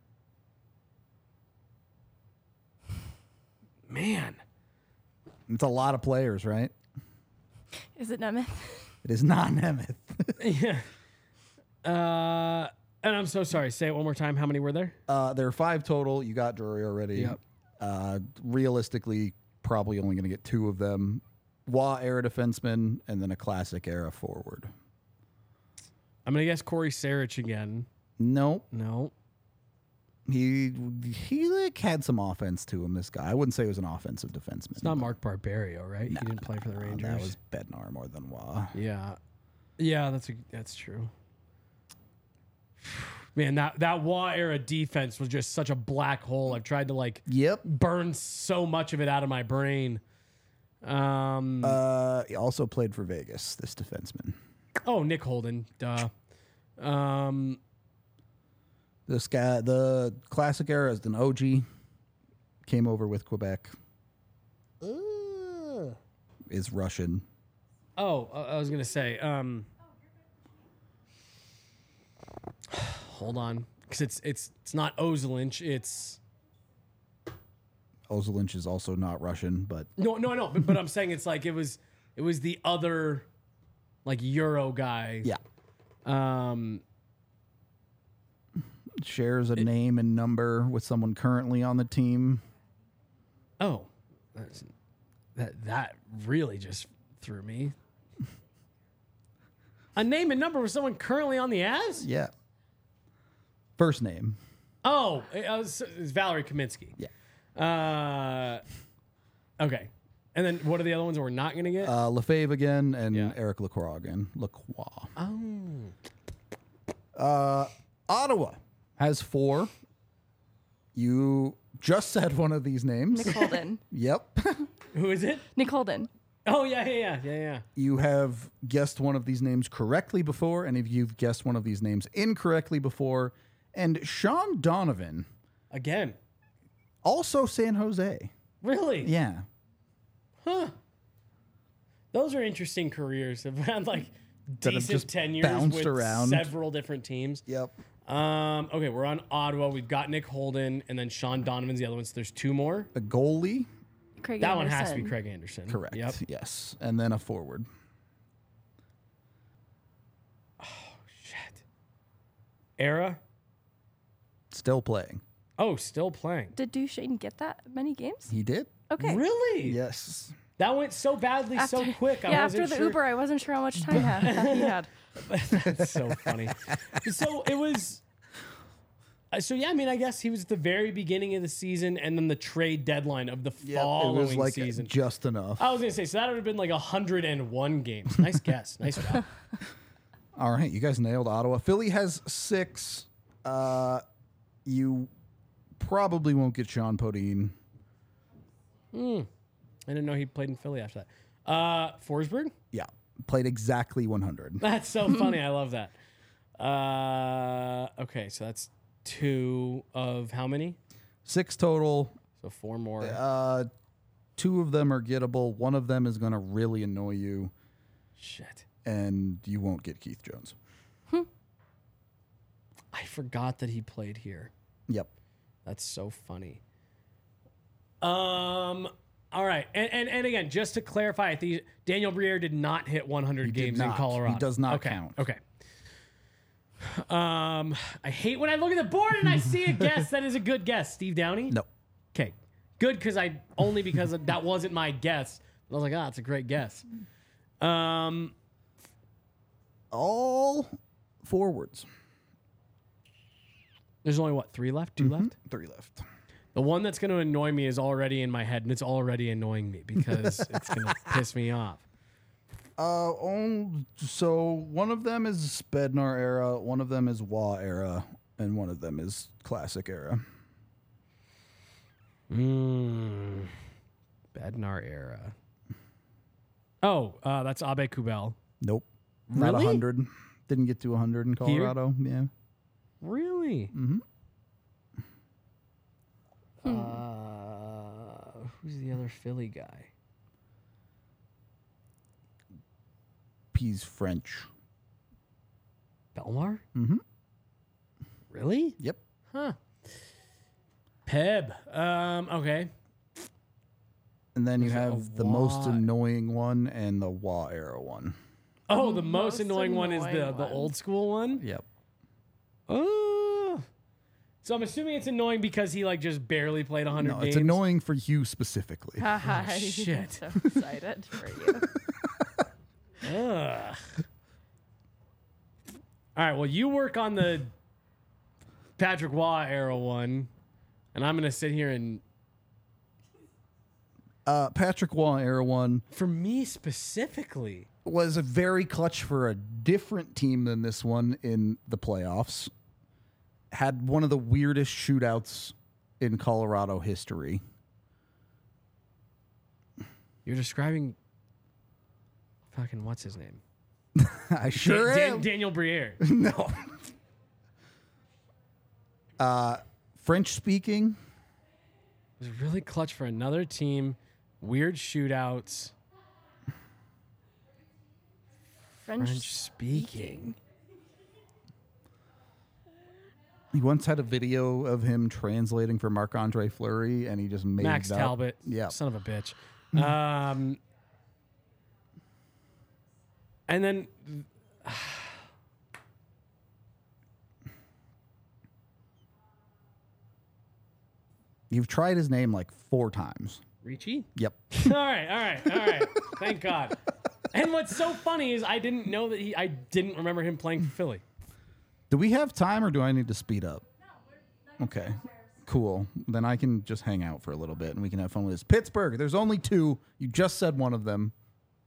Man. It's a lot of players, right? Is it Nemeth? It is not Nemeth. Yeah. Uh, and I'm so sorry. Say it one more time. How many were there? Uh, there are five total. You got Drury already. Yep. Uh, realistically, probably only going to get two of them. Wah era defenseman and then a classic era forward. I'm gonna guess Corey Sarich again. Nope. No. He he like had some offense to him. This guy, I wouldn't say he was an offensive defenseman. It's not Mark Barbario, right? Nah, he didn't play for the nah, Rangers. That was Bednar more than Wah. Yeah, yeah, that's a, that's true. Man, that that Wah era defense was just such a black hole. I've tried to like Yep. burn so much of it out of my brain. Um, Uh, he also played for Vegas. This defenseman. oh, Nick Holden, duh. Um, This guy, the classic era is an O G. Came over with Quebec. Is Russian. oh, I I was gonna say. Um, hold on, because it's it's it's not Ozelinch. It's Ozelinch is also not Russian, but no, no, no. But, but I'm saying it's like it was it was the other like Euro guy. yeah. Um, Shares a name and number with someone currently on the team. oh, that's, that that really just threw me. A name and number with someone currently on the Avs? Yeah. First name. Oh, it was, it's Valerie Kaminsky. Yeah. Uh, okay. And then what are the other ones that we're not going to get? Uh, Lefebvre again and Yeah. Eric Lacroix again. Lacroix. oh. Uh, Ottawa has four. You just said one of these names. Nick Holden. Yep. Who is it? Nick Holden. Oh, yeah, yeah, yeah, yeah, yeah. You have guessed one of these names correctly before, and if you've guessed one of these names incorrectly before, and Sean Donovan, Again. also San Jose. Really? Yeah. Huh. Those are interesting careers. Have had like That have decent just tenures bounced with around. several different teams. Yep. Um, okay, we're on Ottawa. We've got Nick Holden, and then Sean Donovan's the other one. So there's two more. A goalie. Craig That Anderson. one has to be Craig Anderson. Correct. Yep. Yes. And then a forward. Shit. Era. Still playing. Oh, still playing. Did Duchesne get that many games? He did? Okay. Really? Yes. That went so badly so quick. I yeah, wasn't after the sure. Uber, I wasn't sure how much time ha- he had. That's so funny. So it was. uh, So yeah, I mean, I guess he was at the very beginning of the season, and then the trade deadline of the Yep. following It was like season. just enough. I was gonna say, so that would have been like hundred and one games. Nice guess. Nice job. All right. You guys nailed Ottawa. Philly has six. Uh, you probably won't get Sean Podine. I didn't know he played in Philly after that. Uh, Forsberg. Yeah. Played exactly one hundred. That's so funny. I love that. Uh, okay, so that's two of how many? Six total. So four more. Uh, two of them are gettable. One of them is going to really annoy you, Shit. and you won't get Keith Jones. I forgot that he played here. Yep. That's so funny. Um. All right, and and, and again, just to clarify, I think Daniel Briere did not hit one hundred did games in not. Colorado. He does not okay. count. Okay. Um, I hate when I look at the board and I see a guess that is a good guess. Steve Downey. No. Okay, good because I only because that wasn't my guess. I was like, ah, it's a great guess. Um, All forwards. there's only what three left, 2 left. Three left. The one that's going to annoy me is already in my head, and it's already annoying me because it's going to piss me off. Uh, on, so one of them is Bednar era, one of them is Waugh era, and one of them is Classic era. Mm. Bednar era. Oh, uh, that's Abe Kubel. Nope. Not Really? one hundred. Didn't get to one hundred in Colorado. Yeah. Really? Mm-hmm. Uh, who's the other Philly guy? He's French. Belmar? Mm-hmm. Really? Yep. Huh. Peb. Um, okay. And then you There's a have the most Waugh. annoying one and the Waugh era one. Oh, the most, Most annoying, one is the, annoying the one. old school one? Yep. Oh. So I'm assuming it's annoying because he like just barely played one hundred No, games. it's annoying for you specifically. Haha, I'm shit. so excited for you. Ugh. All right, well, you work on the Patrick Waugh era one, and I'm going to sit here and, Uh, Patrick Waugh era one for me specifically, was a very clutch for a different team than this one in the playoffs. Had one of the weirdest shootouts in Colorado history. you're describing fucking, what's his name? I sure Dan- Dan- am. Daniel Briere. No. Uh, French speaking. It was really clutch for another team. Weird shootouts. French, French speaking. He once had a video of him translating for Marc-Andre Fleury, and he just made Max it up. Talbot. Yeah. Son of a bitch. Um, and then You've tried his name like four times. Ricci? Yep. all right, all right, all right. Thank God. And what's so funny is I didn't know that he, I didn't remember him playing for Philly. Do we have time or do I need to speed up? Okay, cool. Then I can just hang out for a little bit and we can have fun with this. Pittsburgh, there's only two. You just said one of them.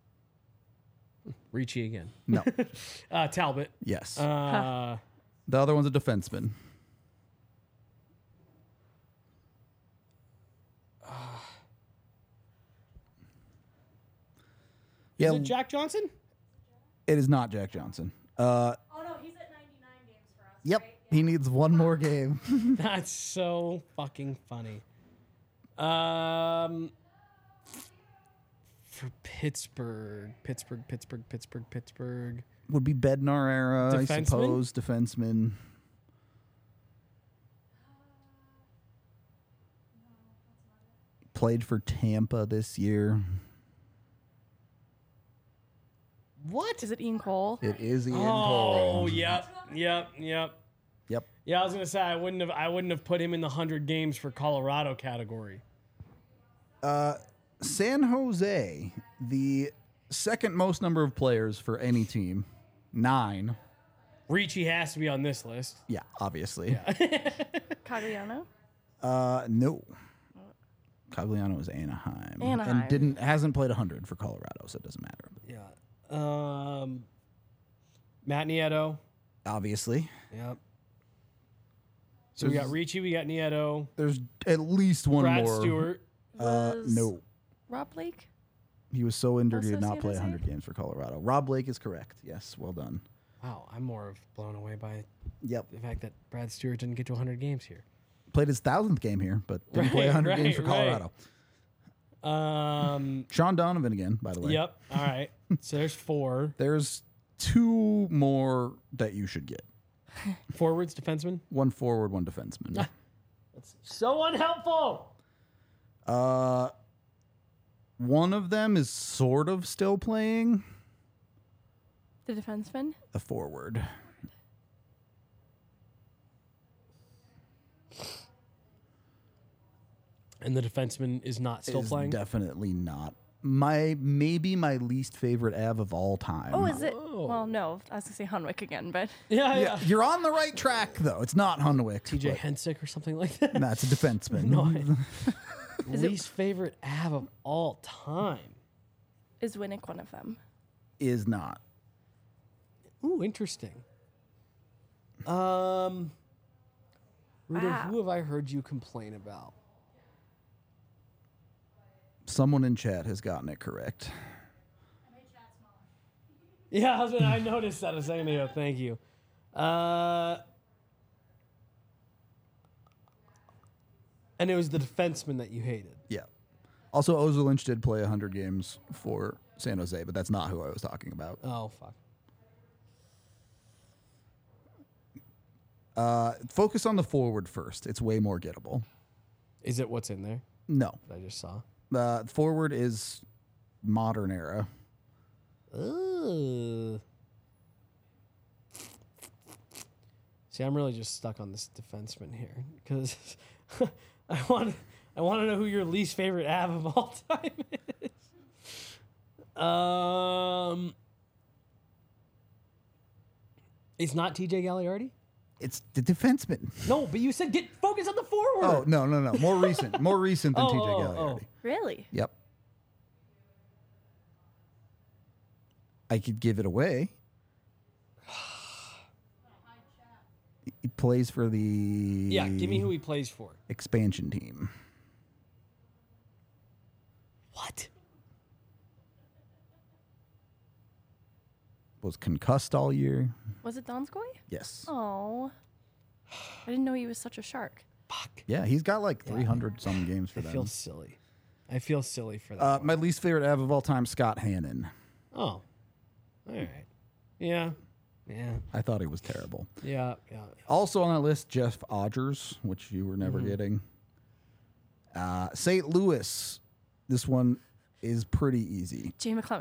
Ricci again. No. uh, Talbot. Yes. Uh, The other one's a defenseman. Yeah, Is it Jack Johnson? it is not Jack Johnson. Uh, Oh no, he's at ninety-nine games for us. yep, he needs one more game. That's so fucking funny. Um, for Pittsburgh, Pittsburgh, Pittsburgh, Pittsburgh, Pittsburgh. Would be Bednar era, I Defenseman? suppose. Defenseman. Played for Tampa this year. What? Is it Ian Cole? It is Ian Oh, Cole. yep, yep, yep. Yep. Yeah, I was gonna say I wouldn't have. I wouldn't have put him in the hundred games for Colorado category. San Jose, the second most number of players for any team, nine. Ricci has to be on this list. Yeah, obviously. Cagliano? Uh, no. Cagliano is Anaheim, Anaheim. and didn't hasn't played hundred for Colorado, so it doesn't matter. Yeah. Um, Matt Nieto. Obviously, Yep. So we got Ricci, we got Nieto, there's at least one Brad more. Stewart. Uh, Was no, Rob Blake? he was so injured he Also did not San play Jose? hundred games for Colorado. Rob Blake is correct. Yes, well done. Wow, I'm more of blown away by Yep, the fact that Brad Stewart didn't get to hundred games here. played his thousandth game here, but didn't play Right, hundred games for right, right. Colorado. Um. Sean Donovan again, by the way. Yep. All right. So there's four There's two more that you should get. forwards, defensemen. One forward, one defenseman. That's so unhelpful. Uh, one of them is sort of still playing. The defenseman? The forward. And the defenseman is not still is playing. Definitely not. My maybe my least favorite Av of all time. Oh, is it? Oh. Well, no. I was going to say Hunwick again, but yeah, yeah. Yeah, you're on the right track though. It's not Hunwick. T J but Hensick or something like that. That's a defenseman. No, I- Is it- Least favorite Av of all time. is Winnick one of them? Is not. Ooh, interesting. Um, Ruder, Wow. who have I heard you complain about? Someone in chat has gotten it correct. Yeah, I, was, I noticed that a second ago. Thank you. Uh, and it was the defenseman that you hated. Yeah. Also, Ozil Lynch did play one hundred games for San Jose, but that's not who I was talking about. Oh, fuck. Uh, focus on the forward first. It's way more gettable. Is it what's in there No. that I just saw? Uh, forward is modern era. Ugh. See, I'm really just stuck on this defenseman here because I want I want to know who your least favorite Av of all time is. Um, it's not T J Gagliardi. It's the defenseman. No, but you said get focus on the forward. Oh, no, no, no. More recent. More recent than Oh, T J oh, Gagliardi. oh. Really? Yep. I could give it away. He plays for the Yeah, give me who he plays for. expansion team. What? Was concussed all year. Was it Donskoy? Yes. Oh. I didn't know he was such a shark. Fuck. Yeah, he's got like three hundred some games for I them. feel silly. I feel silly for that. Uh, one. my least favorite Av of all time, Scott Hannon. Oh. All right. Yeah. Yeah. I thought he was terrible. Yeah. Yeah. Also on that list, Jeff Odgers, which you were never Mm-hmm. getting. Uh, Saint Louis. This one is pretty easy. Jay McClement.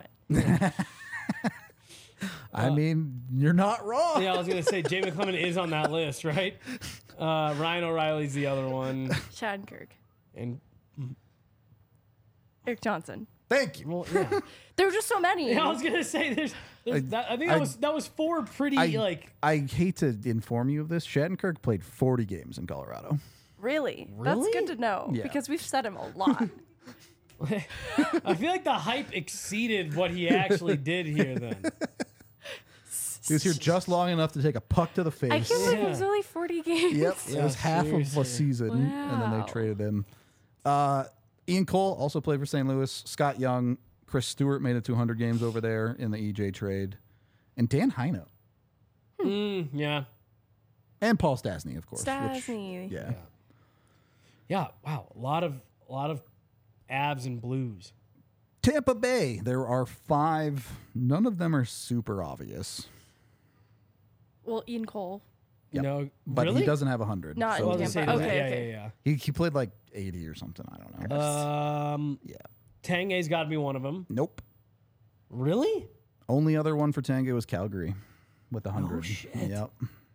I mean, you're not wrong. Yeah, I was gonna say Jay McClement is on that list, right? Uh, Ryan O'Reilly's the other one, Shattenkirk. and Eric Johnson. Thank you. Well, yeah. There were just so many. Yeah, I was gonna say there's. there's I- that, I think that I- was that was four pretty I, like. I hate to inform you of this. Shattenkirk played forty games in Colorado. Really? Really? That's good to know Yeah. because we've said him a lot. I feel like the hype exceeded what he actually did here. Then He was here just long enough to take a puck to the face. I can't believe it was Yeah. only forty games. Yep, it Yeah, was half of seriously. a season, and then Wow. they traded him. Uh, Ian Cole also played for Saint Louis. Scott Young, Chris Stewart made it to one hundred games over there in the E J trade, and Dan Heino mm, yeah, and Paul Stastny, of course. which- Stasny. yeah. yeah. Wow, a lot of a lot of abs and blues. Tampa Bay. There are five. None of them are super obvious, Well, Ian Cole. You Yep. know, but really? he doesn't have one hundred. Not I in was Tampa. gonna say, Okay, yeah, okay. yeah, He, he played like eighty or something. I don't know. yeah. Um, yeah. Tanguay's got to be one of them. Nope. Really? Only other one for Tango was Calgary with one hundred. shit. Yep.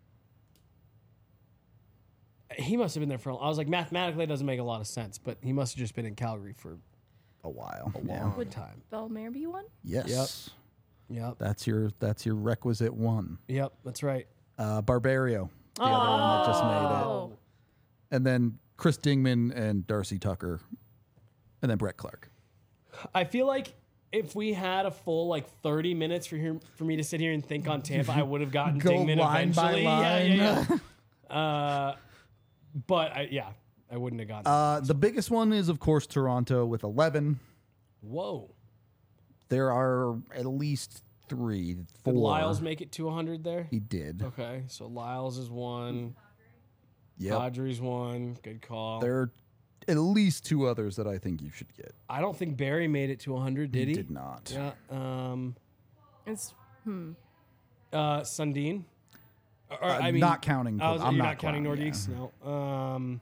He must have been there for. a I was like, mathematically, it doesn't make a lot of sense, but he must have just been in Calgary for A while. a Yeah. long Would- time. Bellemare be one? Yes. Yep. That's your that's your requisite one. Yep. That's right. Uh, Barbario, the other one that just made it, Oh. and then Chris Dingman and Darcy Tucker, and then Brett Clark. I feel like if we had a full like thirty minutes for here for me to sit here and think on Tampa, I would have gotten Go Dingman line by eventually. line. Yeah, yeah, yeah. uh, but I, yeah, I wouldn't have gotten. Uh, the biggest one is of course Toronto with eleven. Whoa. There are at least three, four. Did Lyles make it to one hundred there? He did. Okay, so Lyles is one. Yep. Padres one. Good call. There are at least two others that I think you should get. I don't think Barry made it to one hundred. Did he? Did not. Yeah. Um. It's Uh. Sundin. Or, Uh, I mean, not counting. I was, I'm you're not not counting counting, Nordiques. No. Um.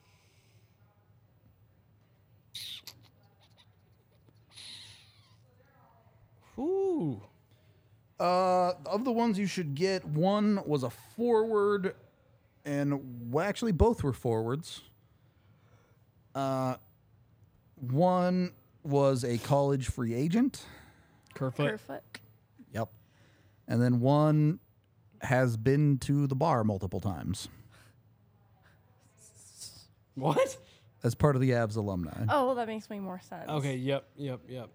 Ooh. Uh, of the ones you should get, one was a forward, and well, actually both were forwards. Uh, one was a college free agent. Kerfoot. Kerfoot. Yep. And then one has been to the bar multiple times What? as part of the Avs alumni. Oh, well, that makes way more sense. Okay. Yep. Yep. Yep.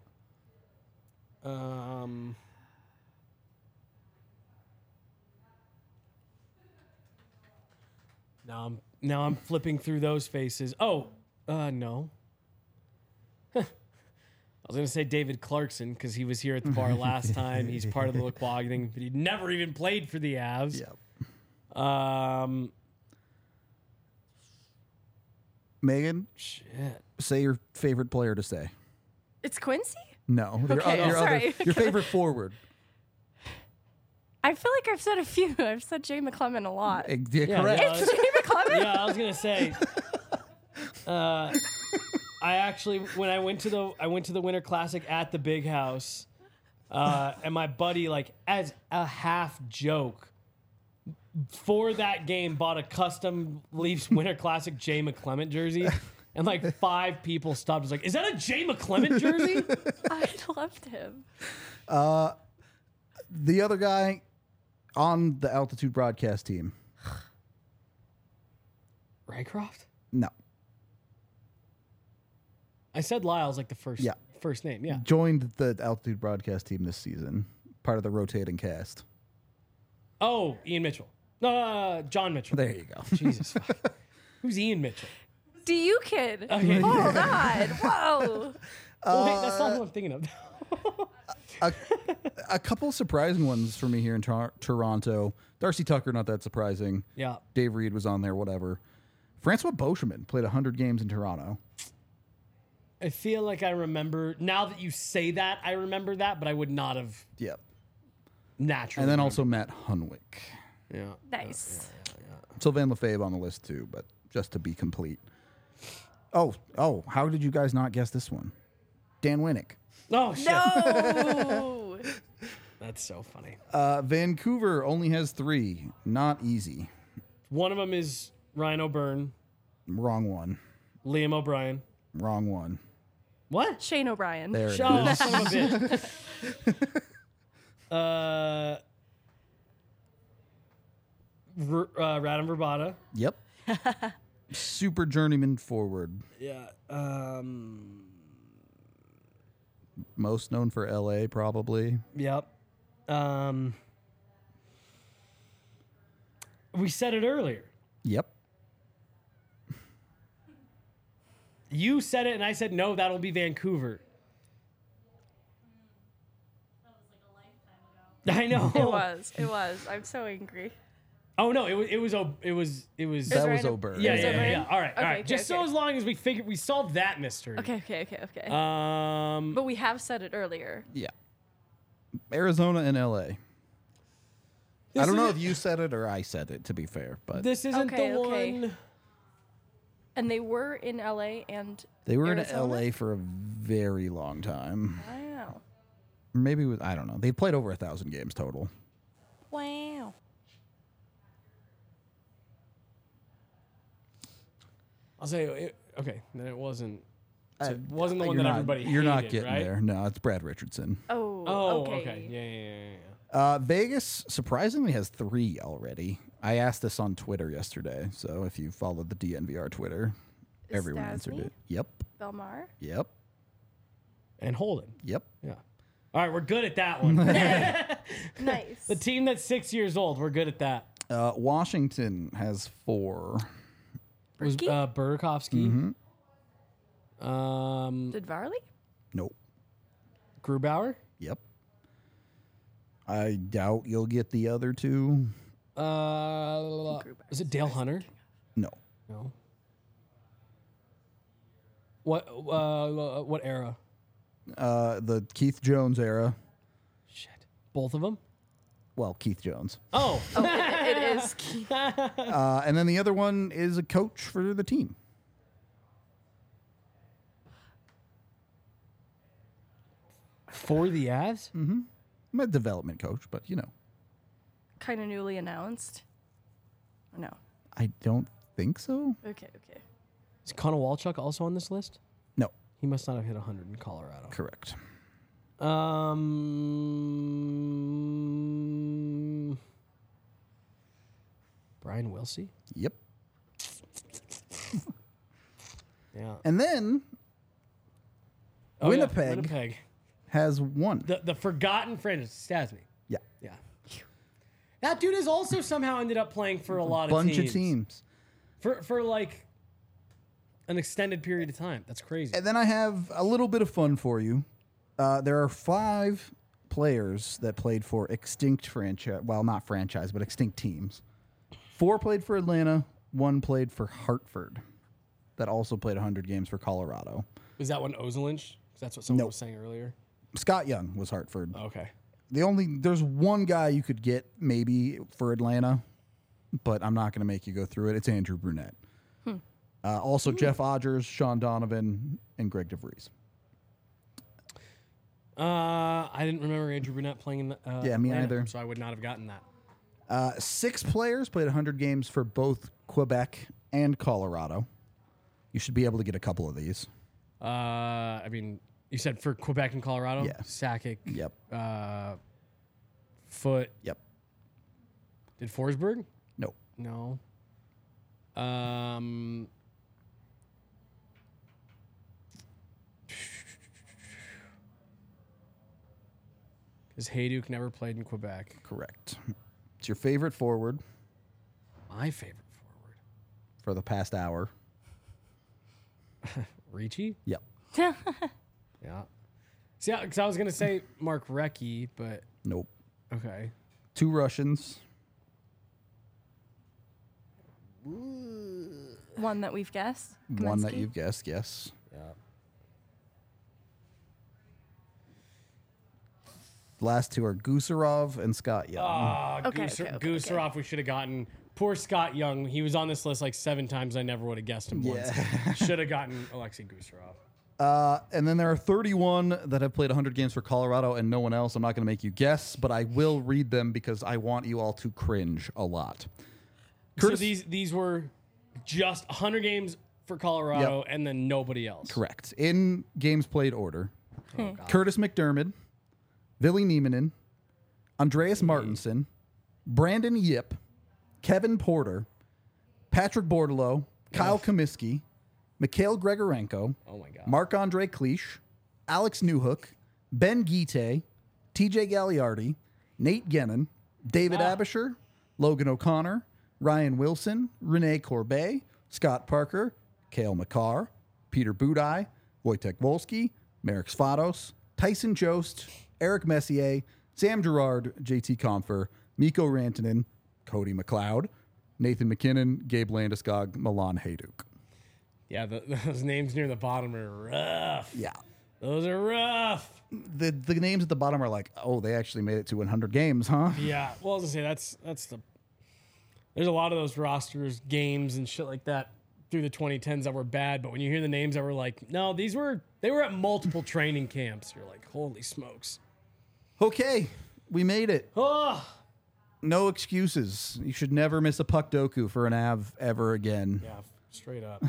Um. Now I'm now I'm flipping through those faces. Oh, uh, no. I was gonna say David Clarkson because he was here at the bar last time. He's part of the Lacroix thing, but he never even played for the Avs. Yep. Um. Megan, Shit. say your favorite player to say. It's Quincy? No, your, Okay, other, your, sorry. other, your favorite forward. I feel like I've said a few. I've said Jay McClement a lot. Eh, yeah, Yeah, correct. yeah. It's Jay McClement? Yeah, I was gonna say. Uh, I actually, when I went to the, I went to the Winter Classic at the Big House, uh, and my buddy, like, as a half joke, for that game, bought a custom Leafs Winter Classic Jay McClement jersey, and like five people stopped. Was like, "Is that a Jay McClement jersey?" I loved him. The other guy on the Altitude broadcast team. Rycroft. No. I said Lyle's like the first, Yeah. first name. Yeah. Joined the Altitude broadcast team this season. Part of the rotating cast. Oh, Ian Mitchell. No, uh, John Mitchell. There you go. Jesus. fuck. Who's Ian Mitchell? Do you kid? Okay. Oh, God. Whoa. Oh, wait, that's not who I'm thinking of. A couple surprising ones for me here in Tor- Toronto. Darcy Tucker, not that surprising. Yeah. Dave Reed was on there, whatever. Francois Beauchemin played one hundred games in Toronto. I feel like I remember, now that you say that, I remember that, but I would not have Yep. naturally. And then remembered. also Matt Hunwick. Yeah. Nice. Sylvain Lefebvre on the list too, but just to be complete. Oh, oh, how did you guys not guess this one? Dan Winnick. Oh, shit. No. That's so funny. Uh, Vancouver only has three. Not easy. One of them is Ryan O'Byrne, Wrong one. Liam O'Brien. Wrong one. What? Shane O'Brien. There it Oh, is. son of a bitch. uh, Ver, uh, Radim Verbata. Yep. Super journeyman forward. Yeah. Um. Most known for L A, probably. Yep. Um. We said it earlier. Yep. You said it, and I said no. That'll be Vancouver. I know. It was. It was. I'm so angry. Oh no! It was. It was. o- It was. It was. That was random. Oberg. yeah, was yeah, yeah, O'Brien? yeah. All right. all Okay, right. okay, Just so okay. as long as we figured we solved that mystery. Okay, okay, okay, okay. Um. but we have said it earlier. Yeah. Arizona and L A. I This don't know isn't- if you said it or I said it, to be fair, but This isn't Okay, the okay. one. And they were in L A and they were in Arizona? L A for a very long time. Wow. Maybe it was, I don't know. They've played over a thousand games total. Wow. I'll say it, okay. Then it wasn't. Uh, So it wasn't the one you're that not- everybody You're not hated, getting right? there. No, it's Brad Richardson. Oh, Oh, okay. okay. Yeah, yeah, yeah, yeah. Uh, Vegas surprisingly has three already. I asked this on Twitter yesterday, so if you followed the D N V R Twitter, Is everyone answered Stasny? it. Yep, Belmar. yep, And Holden. yep. Yeah. All right, we're good at that one. Nice. The team that's six years old, we're good at that. Uh, Washington has four. Was Berkey? uh, Burakovsky. Mm-hmm. Um, Did Varley? Nope. Grubauer. Yep. I doubt you'll get the other two. Uh, is it Dale Hunter? No. No. What? Uh, what era? Uh, the Keith Jones era. Shit. Both of them. Well, Keith Jones. Oh. Oh, it, it is. Uh, and then the other one is a coach for the team. For the Avs? I'm a development coach, but you know, Kind of newly announced. Or no. I don't think so. Okay, okay. Is Connor Walchuk also on this list? No, He must not have hit one hundred in Colorado. correct. Um, Brian Wilsey? Yep. Yeah. And then Oh, yeah, Winnipeg. Winnipeg. has one. The, the forgotten friend is Stasny. Yeah. Yeah. That dude has also somehow ended up playing for a lot Bunch of teams. of teams. For, for like an extended period of time. That's crazy. And then I have a little bit of fun for you. Uh, there are five players that played for extinct franchise. Well, not franchise, but extinct teams. Four played for Atlanta. One played for Hartford. That also played one hundred games for Colorado. Was that one Ozelinch? 'Cause that's what someone Nope. was saying earlier. Scott Young was Hartford. Okay. The only there's one guy you could get maybe for Atlanta, but I'm not going to make you go through it. It's Andrew Brunette. Hmm. Uh, also, Jeff Odgers, Sean Donovan, and Greg DeVries. Uh, I didn't remember Andrew Brunette playing in the, uh, Yeah, me Atlanta, either. So I would not have gotten that. Uh, six players played one hundred games for both Quebec and Colorado. You should be able to get a couple of these. Uh, I mean, you said for Quebec and Colorado? Yeah. Sakic. Yep. Uh, Foot. Yep. Did Forsberg? No. No. Um. Because Hayduk never played in Quebec. Correct. It's your favorite forward My favorite forward. for the past hour. Ricci? Yep. Yeah. See, because I was going to say Mark Recchi, but Nope. okay. Two Russians. One that we've guessed. One that Kaminsky? you've guessed, yes. Yeah. The last two are Gusarov and Scott Young. Ah, Okay, Gooser- okay, okay, Gooserov, we should have gotten. Poor Scott Young. He was on this list like seven times. I never would have guessed him once. Should have gotten Alexei Gooserov. Uh, and then there are thirty-one that have played one hundred games for Colorado and no one else. I'm not going to make you guess, but I will read them because I want you all to cringe a lot. So Curtis- these these were just one hundred games for Colorado, and then nobody else. Correct. In games played order. Oh, God. Curtis McDermott, Billy Niemanen, Andreas Martinson, Brandon Yip, Kevin Porter, Patrick Bordelot, Kyle Comiskey, Mikhail Gregorenko, Oh, my God. Marc-Andre Cliche, Alex Newhook, Ben Guite, T J Gagliardi, Nate Gennon, David Ah. Abisher, Logan O'Connor, Ryan Wilson, Rene Corbet, Scott Parker, Cale Makar, Peter Budaj, Wojtek Wolski, Marek Svados, Tyson Jost, Eric Messier, Sam Gerard, J T Compher, Mikko Rantanen, Cody McLeod, Nathan McKinnon, Gabe Landeskog, Milan Hayduk. Yeah, the, those names near the bottom are rough. Yeah. Those are rough. The the names at the bottom are like, oh, they actually made it to one hundred games, huh? Yeah. Well, I was gonna say that's that's the. There's a lot of those rosters, games, and shit like that through the twenty tens that were bad. But when you hear the names that were like, no, these were they were at multiple training camps. You're like, holy smokes. Okay, we made it. Oh, No excuses. You should never miss a puck doku for an Av ever again. yeah, straight up.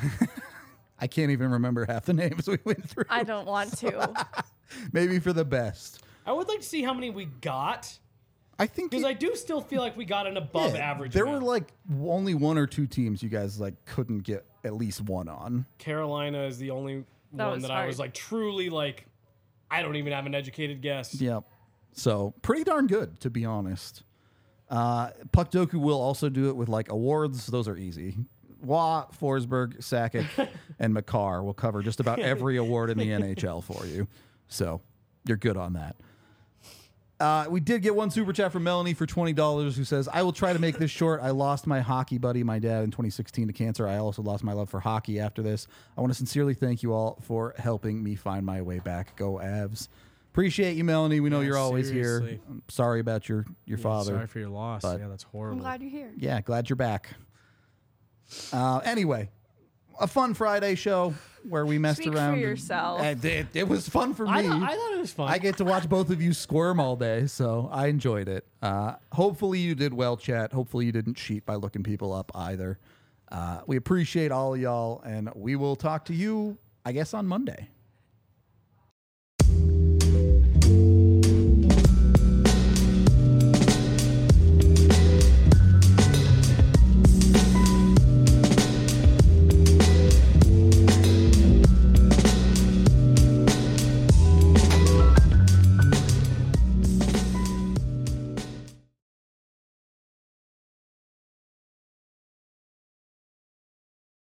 I can't even remember half the names we went through. I don't want to. Maybe for the best. I would like to see how many we got I think because it- I do still feel like we got an above yeah, average. There amount. were like only one or two teams you guys like couldn't get at least one on. Carolina is the only That one was that I hard. was like truly like. I don't even have an educated guess. Yep. So pretty darn good, to be honest. Uh, Puck Doku will also do it with like awards. Those are easy. Waugh, Forsberg, Sakic, and Makar will cover just about every award in the N H L for you. So you're good on that. Uh, we did get one super chat from Melanie for twenty dollars who says, I will try to make this short. I lost my hockey buddy, my dad, in twenty sixteen to cancer. I also lost my love for hockey after this. I want to sincerely thank you all for helping me find my way back. Go Avs. Appreciate you, Melanie. We know Yeah, you're always here. seriously. I'm sorry about your, your Yeah, father. Sorry for your loss. but- Yeah, that's I'm horrible. glad you're here. Yeah, glad you're back. Uh, anyway, a fun Friday show where we messed Speak for around. and- yourself. and it, it was fun for me. I, thought, I thought it was fun. I get to watch both of you squirm all day, so I enjoyed it. Uh, hopefully you did well, chat. Hopefully you didn't cheat by looking people up either. Uh, we appreciate all of y'all, and we will talk to you, I guess, on Monday.